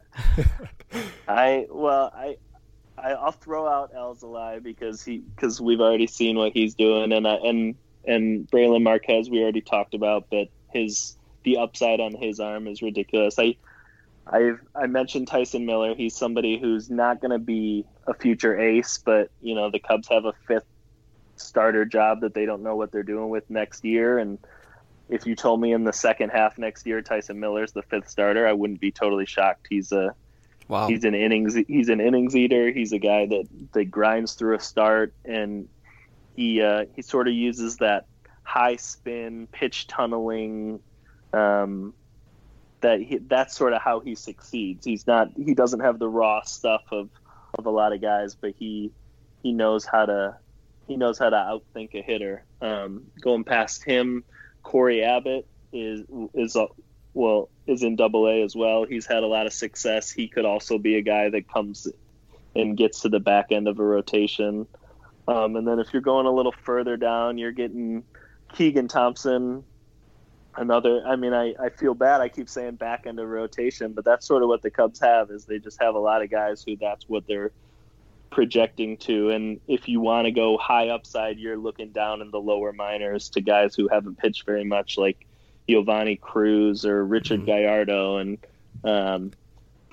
I, well, I, I, I'll throw out Alzolay because he, because we've already seen what he's doing, and I, and, and Braylon Marquez, we already talked about, but his, the upside on his arm is ridiculous. I, I've I mentioned Tyson Miller. He's somebody who's not going to be a future ace, but you know, the Cubs have a fifth starter job that they don't know what they're doing with next year. And if you told me in the second half next year Tyson Miller's the fifth starter, I wouldn't be totally shocked. He's a wow. He's an innings he's an innings eater. He's a guy that, that grinds through a start, and he uh, he sort of uses that high spin pitch tunneling. Um, that he, that's sort of how he succeeds. He's not, he doesn't have the raw stuff of, of a lot of guys, but he, he knows how to, he knows how to outthink a hitter. Um, going past him, Corey Abbott is, is, a, well, is in Double A as well. He's had a lot of success. He could also be a guy that comes and gets to the back end of a rotation. Um, and then if you're going a little further down, you're getting Keegan Thompson, Another, I mean, I, I feel bad. I keep saying back end of rotation, but that's sort of what the Cubs have, is they just have a lot of guys who that's what they're projecting to. And if you want to go high upside, you're looking down in the lower minors to guys who haven't pitched very much, like Giovanni Cruz or Richard mm-hmm. Gallardo. And, um, but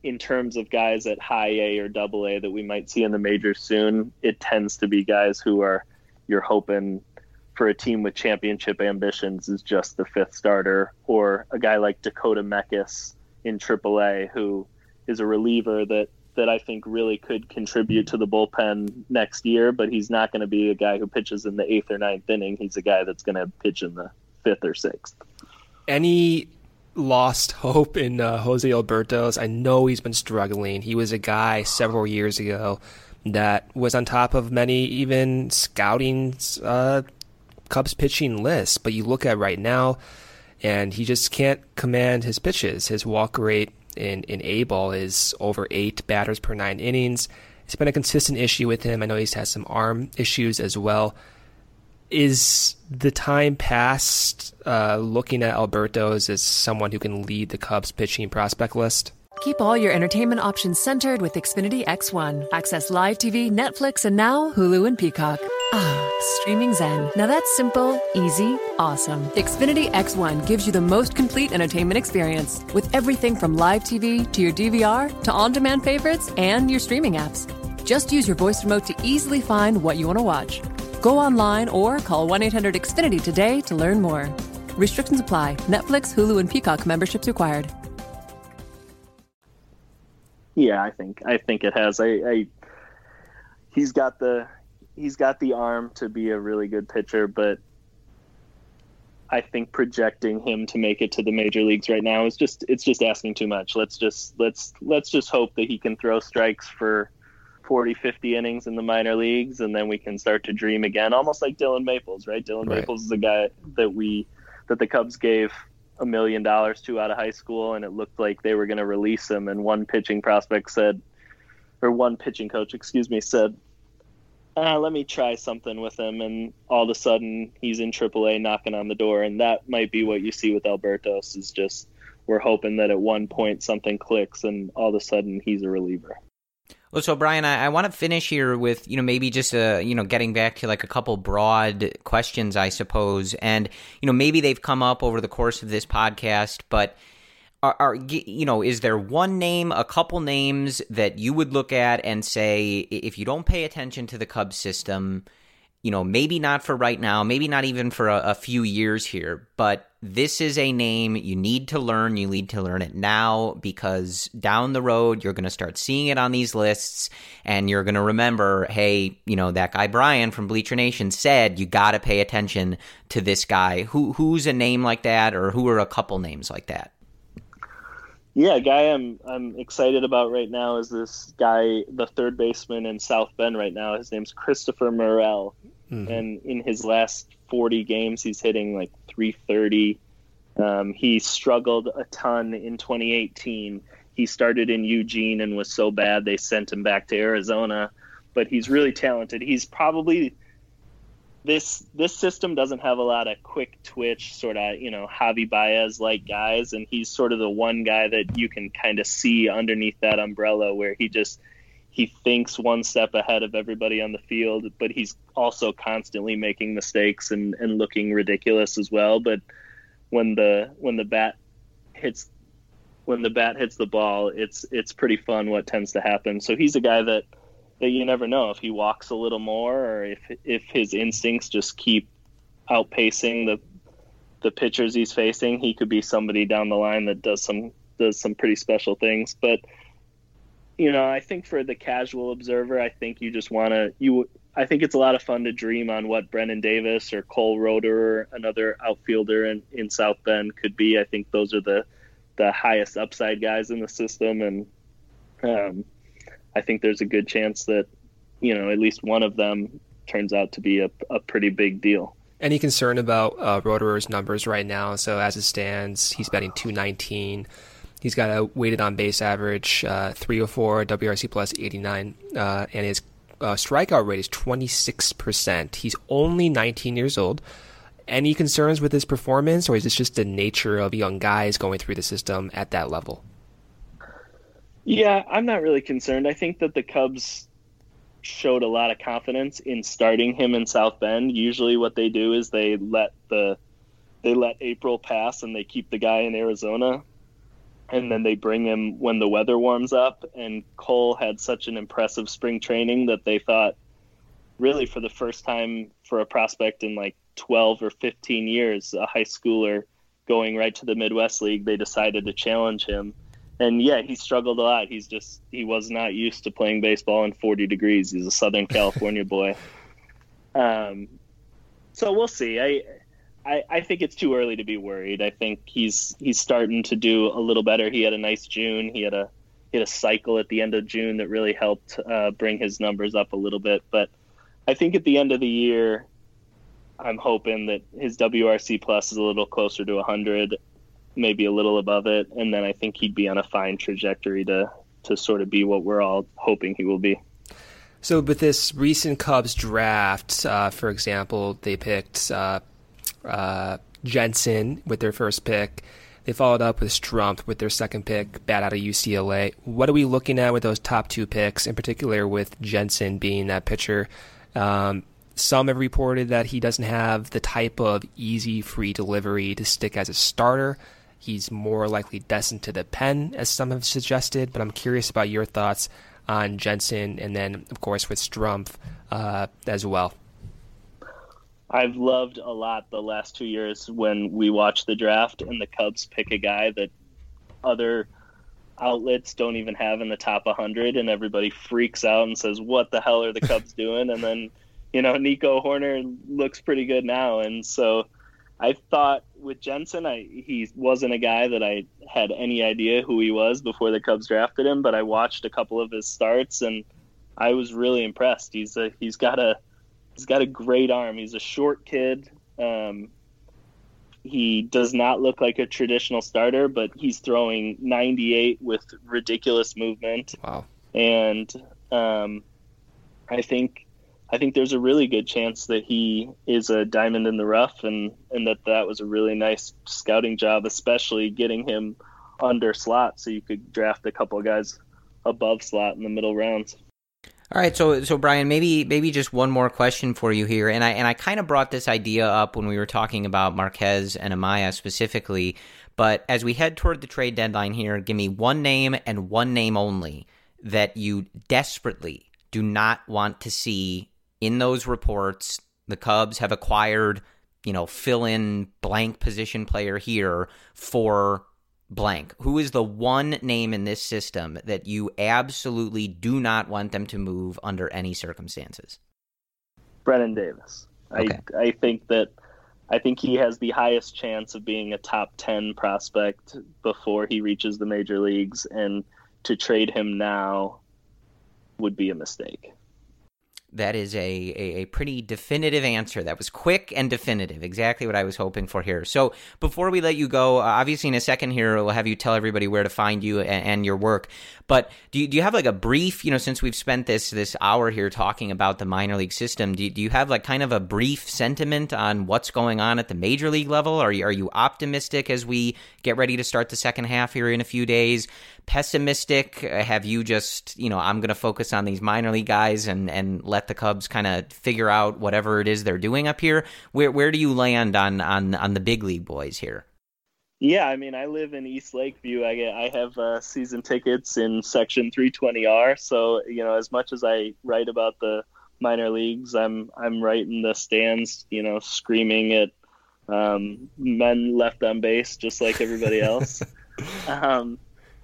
in terms of guys at high A or double A that we might see in the majors soon, it tends to be guys who are, you're hoping for a team with championship ambitions is just the fifth starter, or a guy like Dakota Meckes in triple A, who is a reliever that, that I think really could contribute to the bullpen next year, but he's not going to be a guy who pitches in the eighth or ninth inning. He's a guy that's going to pitch in the fifth or sixth. Any lost hope in uh, Jose Albertos? I know he's been struggling. He was a guy several years ago that was on top of many even scouting uh, Cubs pitching lists, but you look at right now, and he just can't command his pitches. His walk rate in, in A-ball is over eight batters per nine innings. It's been a consistent issue with him. I know he's had some arm issues as well. Is the time past uh, looking at Albertos as someone who can lead the Cubs pitching prospect list? Keep all your entertainment options centered with Xfinity X one. Access live T V, Netflix, and now Hulu and Peacock. Ah, streaming zen. Now that's simple, easy, awesome. Xfinity X one gives you the most complete entertainment experience with everything from live T V to your D V R to on-demand favorites and your streaming apps. Just use your voice remote to easily find what you want to watch. Go online or call one eight hundred X Finity today to learn more. Restrictions apply. Netflix, Hulu, and Peacock memberships required. Yeah, I think I think it has. I, I he's got the he's got the arm to be a really good pitcher, but I think projecting him to make it to the major leagues right now is just it's just asking too much. Let's just let's let's just hope that he can throw strikes for forty, fifty innings in the minor leagues, and then we can start to dream again, almost like Dylan Maples, right? Dylan Right. Maples is a guy that we that the Cubs gave a million dollars to out of high school, and it looked like they were going to release him, and one pitching prospect said, or one pitching coach, excuse me, said, ah, let me try something with him, and all of a sudden he's in triple A knocking on the door, and that might be what you see with Albertos, is just we're hoping that at one point something clicks and all of a sudden he's a reliever. Well, so Brian, I, I want to finish here with, you know, maybe just, uh, you know, getting back to like a couple broad questions, I suppose. And, you know, maybe they've come up over the course of this podcast, but are, are you know, is there one name, a couple names that you would look at and say, if you don't pay attention to the Cubs system, you know, maybe not for right now, maybe not even for a, a few years here, but this is a name you need to learn. You need to learn it now, because down the road, you're going to start seeing it on these lists, and you're going to remember, hey, you know, that guy Brian from Bleacher Nation said you got to pay attention to this guy. Who Who's a name like that, or who are a couple names like that? Yeah, a guy I'm I'm excited about right now is this guy, the third baseman in South Bend right now. His name's Christopher Morel. Mm-hmm. And in his last forty games, he's hitting like three thirty. Um, he struggled a ton in twenty eighteen. He started in Eugene and was so bad they sent him back to Arizona. But he's really talented. He's probably this this system doesn't have a lot of quick twitch, sort of, you know, Javi Baez like guys, and he's sort of the one guy that you can kind of see underneath that umbrella, where he just he thinks one step ahead of everybody on the field, but he's also constantly making mistakes and, and looking ridiculous as well. But when the when the bat hits when the bat hits the ball, it's it's pretty fun what tends to happen. So he's a guy that, that you never know if he walks a little more, or if if his instincts just keep outpacing the the pitchers he's facing, he could be somebody down the line that does some does some pretty special things. But you know, I think for the casual observer, I think you just want to you. I think it's a lot of fun to dream on what Brennan Davis or Cole Roeder, another outfielder in, in South Bend, could be. I think those are the the highest upside guys in the system, and um, I think there's a good chance that, you know, at least one of them turns out to be a, a pretty big deal. Any concern about uh, Roederer's numbers right now? So as it stands, he's batting two nineteen. He's got a weighted on base average uh, three oh four, W R C plus eighty-nine, uh, and his uh, strikeout rate is twenty-six percent. He's only nineteen years old. Any concerns with his performance, or is this just the nature of young guys going through the system at that level? Yeah, I'm not really concerned. I think that the Cubs showed a lot of confidence in starting him in South Bend. Usually what they do is they let the they let April pass and they keep the guy in Arizona. and then they bring him when the weather warms up. And Cole had such an impressive spring training that they thought, really for the first time for a prospect in like twelve or fifteen years, a high schooler going right to the Midwest League, they decided to challenge him. And yeah, he struggled a lot. He's just, he was not used to playing baseball in forty degrees. He's a Southern California boy. Um, so we'll see. I, I, I think it's too early to be worried. I think he's, he's starting to do a little better. He had a nice June. He had a, he had a cycle at the end of June that really helped uh, bring his numbers up a little bit. But I think at the end of the year, I'm hoping that his W R C plus is a little closer to one hundred, maybe a little above it, and then I think he'd be on a fine trajectory to to sort of be what we're all hoping he will be. So with this recent Cubs draft, uh, for example, they picked uh, uh, Jensen with their first pick. They followed up with Strumpf with their second pick, bat out of U C L A. What are we looking at with those top two picks, in particular with Jensen being that pitcher? Um, some have reported that he doesn't have the type of easy, free delivery to stick as a starter. He's more likely destined to the pen, as some have suggested, but I'm curious about your thoughts on Jensen and then, of course, with Strumpf uh, as well. I've loved a lot the last two years when we watch the draft and the Cubs pick a guy that other outlets don't even have in the top one hundred, and everybody freaks out and says, what the hell are the Cubs doing? And then, you know, Nico Hoerner looks pretty good now. And so I thought with Jensen, I, he wasn't a guy that I had any idea who he was before the Cubs drafted him, but I watched a couple of his starts and I was really impressed. He's a, he's got a, he's got a great arm. He's a short kid. Um, he does not look like a traditional starter, but he's throwing ninety-eight with ridiculous movement. Wow. And um, I think, I think there's a really good chance that he is a diamond in the rough, and, and that that was a really nice scouting job, especially getting him under slot so you could draft a couple of guys above slot in the middle rounds. All right, so so Brian, maybe maybe just one more question for you here, and I and I kind of brought this idea up when we were talking about Marquez and Amaya specifically, but as we head toward the trade deadline here, give me one name and one name only that you desperately do not want to see in those reports. The Cubs have acquired, you know, fill in blank position player here for blank. Who is the one name in this system that you absolutely do not want them to move under any circumstances? Brennan Davis. Okay. I I think that I think he has the highest chance of being a top ten prospect before he reaches the major leagues, and to trade him now would be a mistake. That is a, a, a pretty definitive answer. That was quick and definitive. Exactly what I was hoping for here. So before we let you go, uh, obviously in a second here, we'll have you tell everybody where to find you and, and your work. But do you, do you have like a brief, you know, since we've spent this this hour here talking about the minor league system, do you, do you have like kind of a brief sentiment on what's going on at the major league level? Are you, are you optimistic as we get ready to start the second half here in a few days? Pessimistic? Have you just, you know, I'm going to focus on these minor league guys and, and let the Cubs kind of figure out whatever it is they're doing up here? Where where do you land on on on the big league boys here? Yeah, I mean, I live in East Lakeview. I get, I have uh, season tickets in Section three twenty R. So, you know, as much as I write about the minor leagues, I'm I'm right in the stands, you know, screaming at um, men left on base, just like everybody else. um,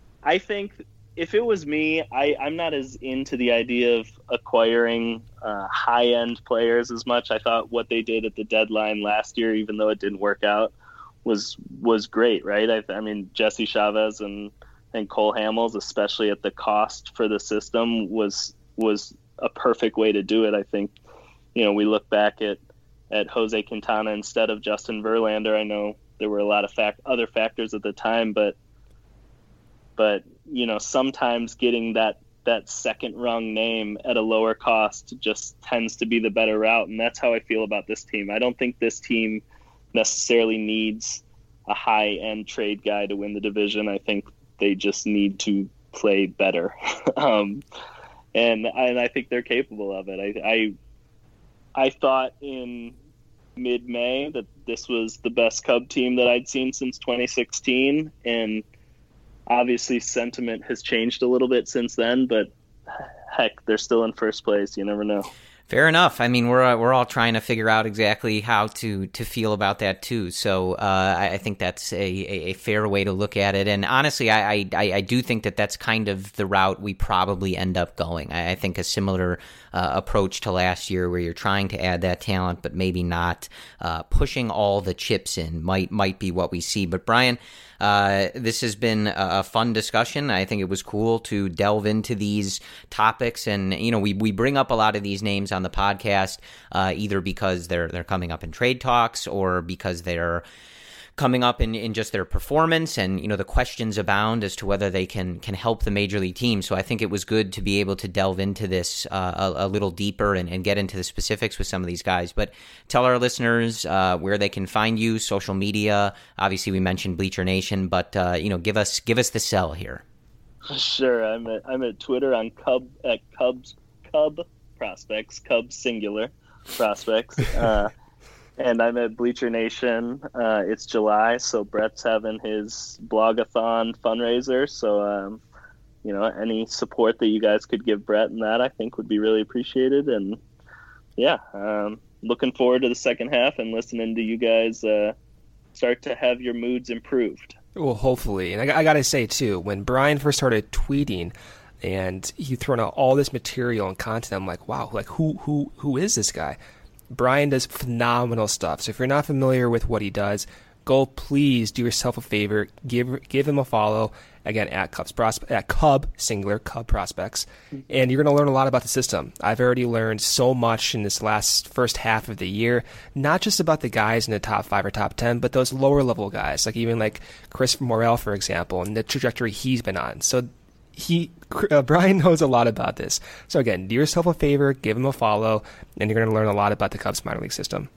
I think if it was me, I, I'm not as into the idea of acquiring uh, high-end players as much. I thought what they did at the deadline last year, even though it didn't work out, was was great, right? I, I mean, Jesse Chavez and, and Cole Hamels, especially at the cost for the system, was was a perfect way to do it. I think, you know, we look back at, at Jose Quintana instead of Justin Verlander. I know there were a lot of fact, other factors at the time, but But, you know, sometimes getting that, that second rung name at a lower cost just tends to be the better route. And that's how I feel about this team. I don't think this team necessarily needs a high-end trade guy to win the division. I think they just need to play better. um, and, and I think they're capable of it. I, I, I thought in mid-May that this was the best Cub team that I'd seen since twenty sixteen. And obviously sentiment has changed a little bit since then, but heck, they're still in first place. You never know. Fair enough. I mean, we're uh, we're all trying to figure out exactly how to, to feel about that too. So uh, I, I think that's a, a fair way to look at it. And honestly, I, I I do think that that's kind of the route we probably end up going. I, I think a similar uh, approach to last year, where you're trying to add that talent, but maybe not uh, pushing all the chips in, might might be what we see. But Brian, Uh, this has been a fun discussion. I think it was cool to delve into these topics, and you know, we we bring up a lot of these names on the podcast, uh, either because they're they're coming up in trade talks or because they're coming up in, in just their performance, and you know, the questions abound as to whether they can can help the major league team. So I think it was good to be able to delve into this uh, a, a little deeper and, and get into the specifics with some of these guys. But tell our listeners uh, where they can find you, social media. Obviously, we mentioned Bleacher Nation, but uh, you know, give us give us the sell here. Sure, I'm at I'm at Twitter on Cub at Cubs Cub Prospects, Cubs singular prospects. Uh, And I'm at Bleacher Nation. Uh, it's July, so Brett's having his blogathon fundraiser. So, um, you know, any support that you guys could give Brett in that, I think, would be really appreciated. And, yeah, um, looking forward to the second half and listening to you guys uh, start to have your moods improved. Well, hopefully. And I, I got to say, too, when Brian first started tweeting and he thrown out all this material and content, I'm like, wow, like who who who is this guy? Brian does phenomenal stuff. So if you're not familiar with what he does, go please do yourself a favor. Give give him a follow. Again, at Cubs Prospe- at Cub, singular, Cub Prospects. And you're going to learn a lot about the system. I've already learned so much in this last first half of the year, not just about the guys in the top five or top ten, but those lower level guys, like even like Chris Morel, for example, and the trajectory he's been on. So He uh, Brian knows a lot about this. So again, do yourself a favor, give him a follow, and you're going to learn a lot about the Cubs minor league system.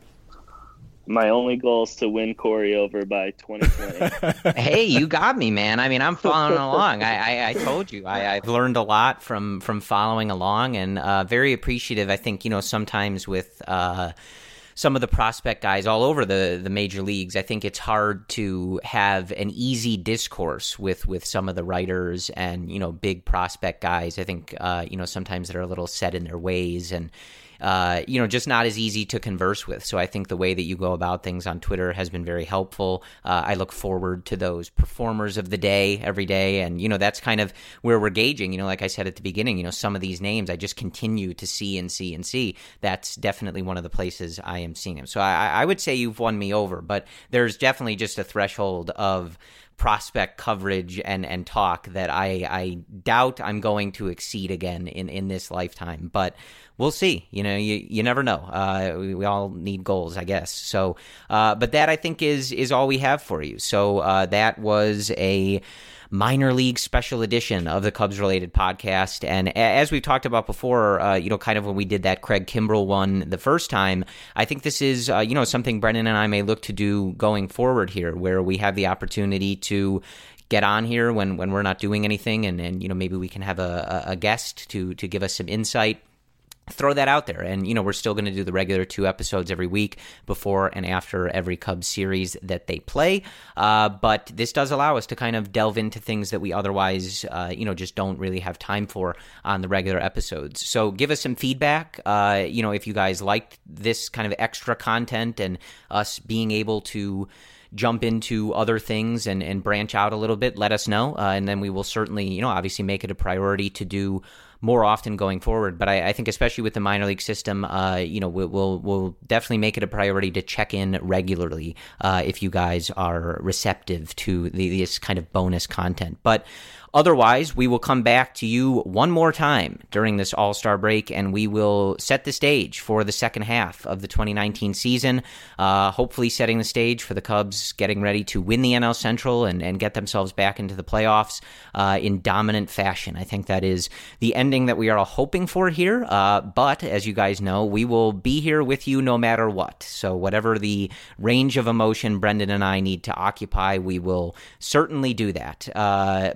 My only goal is to win Corey over by twenty twenty. Hey, you got me, man. I mean, I'm following along. I, I, I told you, I, I've learned a lot from, from following along, and uh, very appreciative. I think, you know, sometimes with uh, some of the prospect guys all over the, the major leagues, I think it's hard to have an easy discourse with, with some of the writers and, you know, big prospect guys. I think, uh, you know, sometimes they're a little set in their ways and, uh, you know, just not as easy to converse with. So I think the way that you go about things on Twitter has been very helpful. Uh, I look forward to those performers of the day every day. And, you know, that's kind of where we're gauging, you know, like I said at the beginning, you know, some of these names I just continue to see and see and see. That's definitely one of the places I am seeing them. So I, I would say you've won me over, but there's definitely just a threshold of prospect coverage and, and talk that I, I doubt I'm going to exceed again in, in this lifetime. But we'll see. You know, you, you never know. Uh, we, we all need goals, I guess. So, uh, but that I think is is all we have for you. So uh, that was a minor league special edition of the Cubs related podcast. And as we've talked about before, uh, you know, kind of when we did that Craig Kimbrell one the first time, I think this is, uh, you know, something Brendan and I may look to do going forward here, where we have the opportunity to get on here when, when we're not doing anything. And, and, you know, maybe we can have a, a guest to, to give us some insight. Throw that out there. And, you know, we're still going to do the regular two episodes every week before and after every Cubs series that they play. Uh, but this does allow us to kind of delve into things that we otherwise, uh, you know, just don't really have time for on the regular episodes. So give us some feedback. Uh, you know, if you guys liked this kind of extra content and us being able to jump into other things and, and branch out a little bit, let us know. Uh, and then we will certainly, you know, obviously make it a priority to do more often going forward. But I, I think especially with the minor league system, uh, you know, we'll, we'll, we'll definitely make it a priority to check in regularly uh, if you guys are receptive to the, this kind of bonus content. But otherwise, we will come back to you one more time during this All-Star break, and we will set the stage for the second half of the twenty nineteen season, uh, hopefully setting the stage for the Cubs getting ready to win the N L Central and, and get themselves back into the playoffs uh, in dominant fashion. I think that is the ending that we are all hoping for here, uh, but as you guys know, we will be here with you no matter what. So whatever the range of emotion Brendan and I need to occupy, we will certainly do that. Uh, but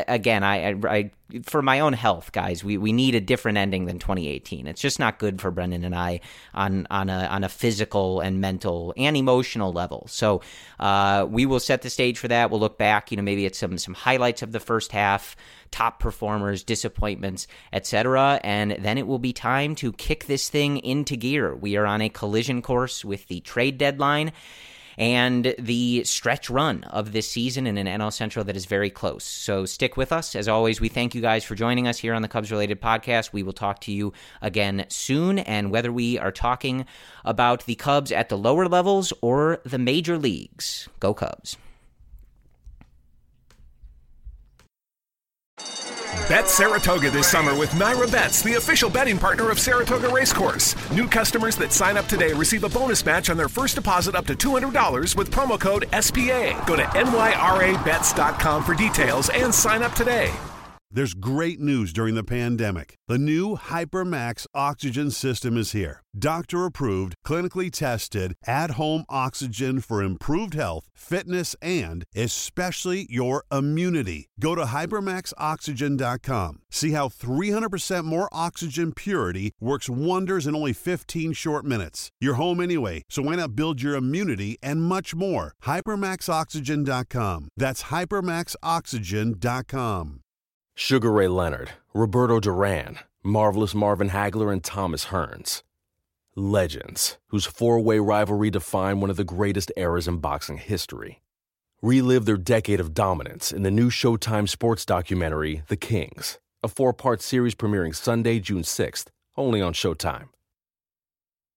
again, I, I, I for my own health, guys, we, we need a different ending than twenty eighteen. It's just not good for Brendan and I on on a on a physical and mental and emotional level. So uh, we will set the stage for that. We'll look back, you know, maybe at some some highlights of the first half, top performers, disappointments, et cetera. And then it will be time to kick this thing into gear. We are on a collision course with the trade deadline and the stretch run of this season in an N L Central that is very close. So stick with us. As always, we thank you guys for joining us here on the Cubs-related podcast. We will talk to you again soon, and whether we are talking about the Cubs at the lower levels or the major leagues, go Cubs. Bet Saratoga this summer with Naira Bets, the official betting partner of Saratoga Racecourse. New customers that sign up today receive a bonus match on their first deposit up to two hundred dollars with promo code S P A. Go to N Y R A bets dot com for details and sign up today. There's great news during the pandemic. The new HyperMax oxygen system is here. Doctor-approved, clinically tested, at-home oxygen for improved health, fitness, and especially your immunity. Go to hypermax oxygen dot com. See how three hundred percent more oxygen purity works wonders in only fifteen short minutes. You're home anyway, so why not build your immunity and much more? hypermax oxygen dot com. That's hypermax oxygen dot com. Sugar Ray Leonard, Roberto Duran, Marvelous Marvin Hagler, and Thomas Hearns. Legends, whose four-way rivalry defined one of the greatest eras in boxing history. Relive their decade of dominance in the new Showtime sports documentary, The Kings, a four-part series premiering Sunday, June sixth, only on Showtime.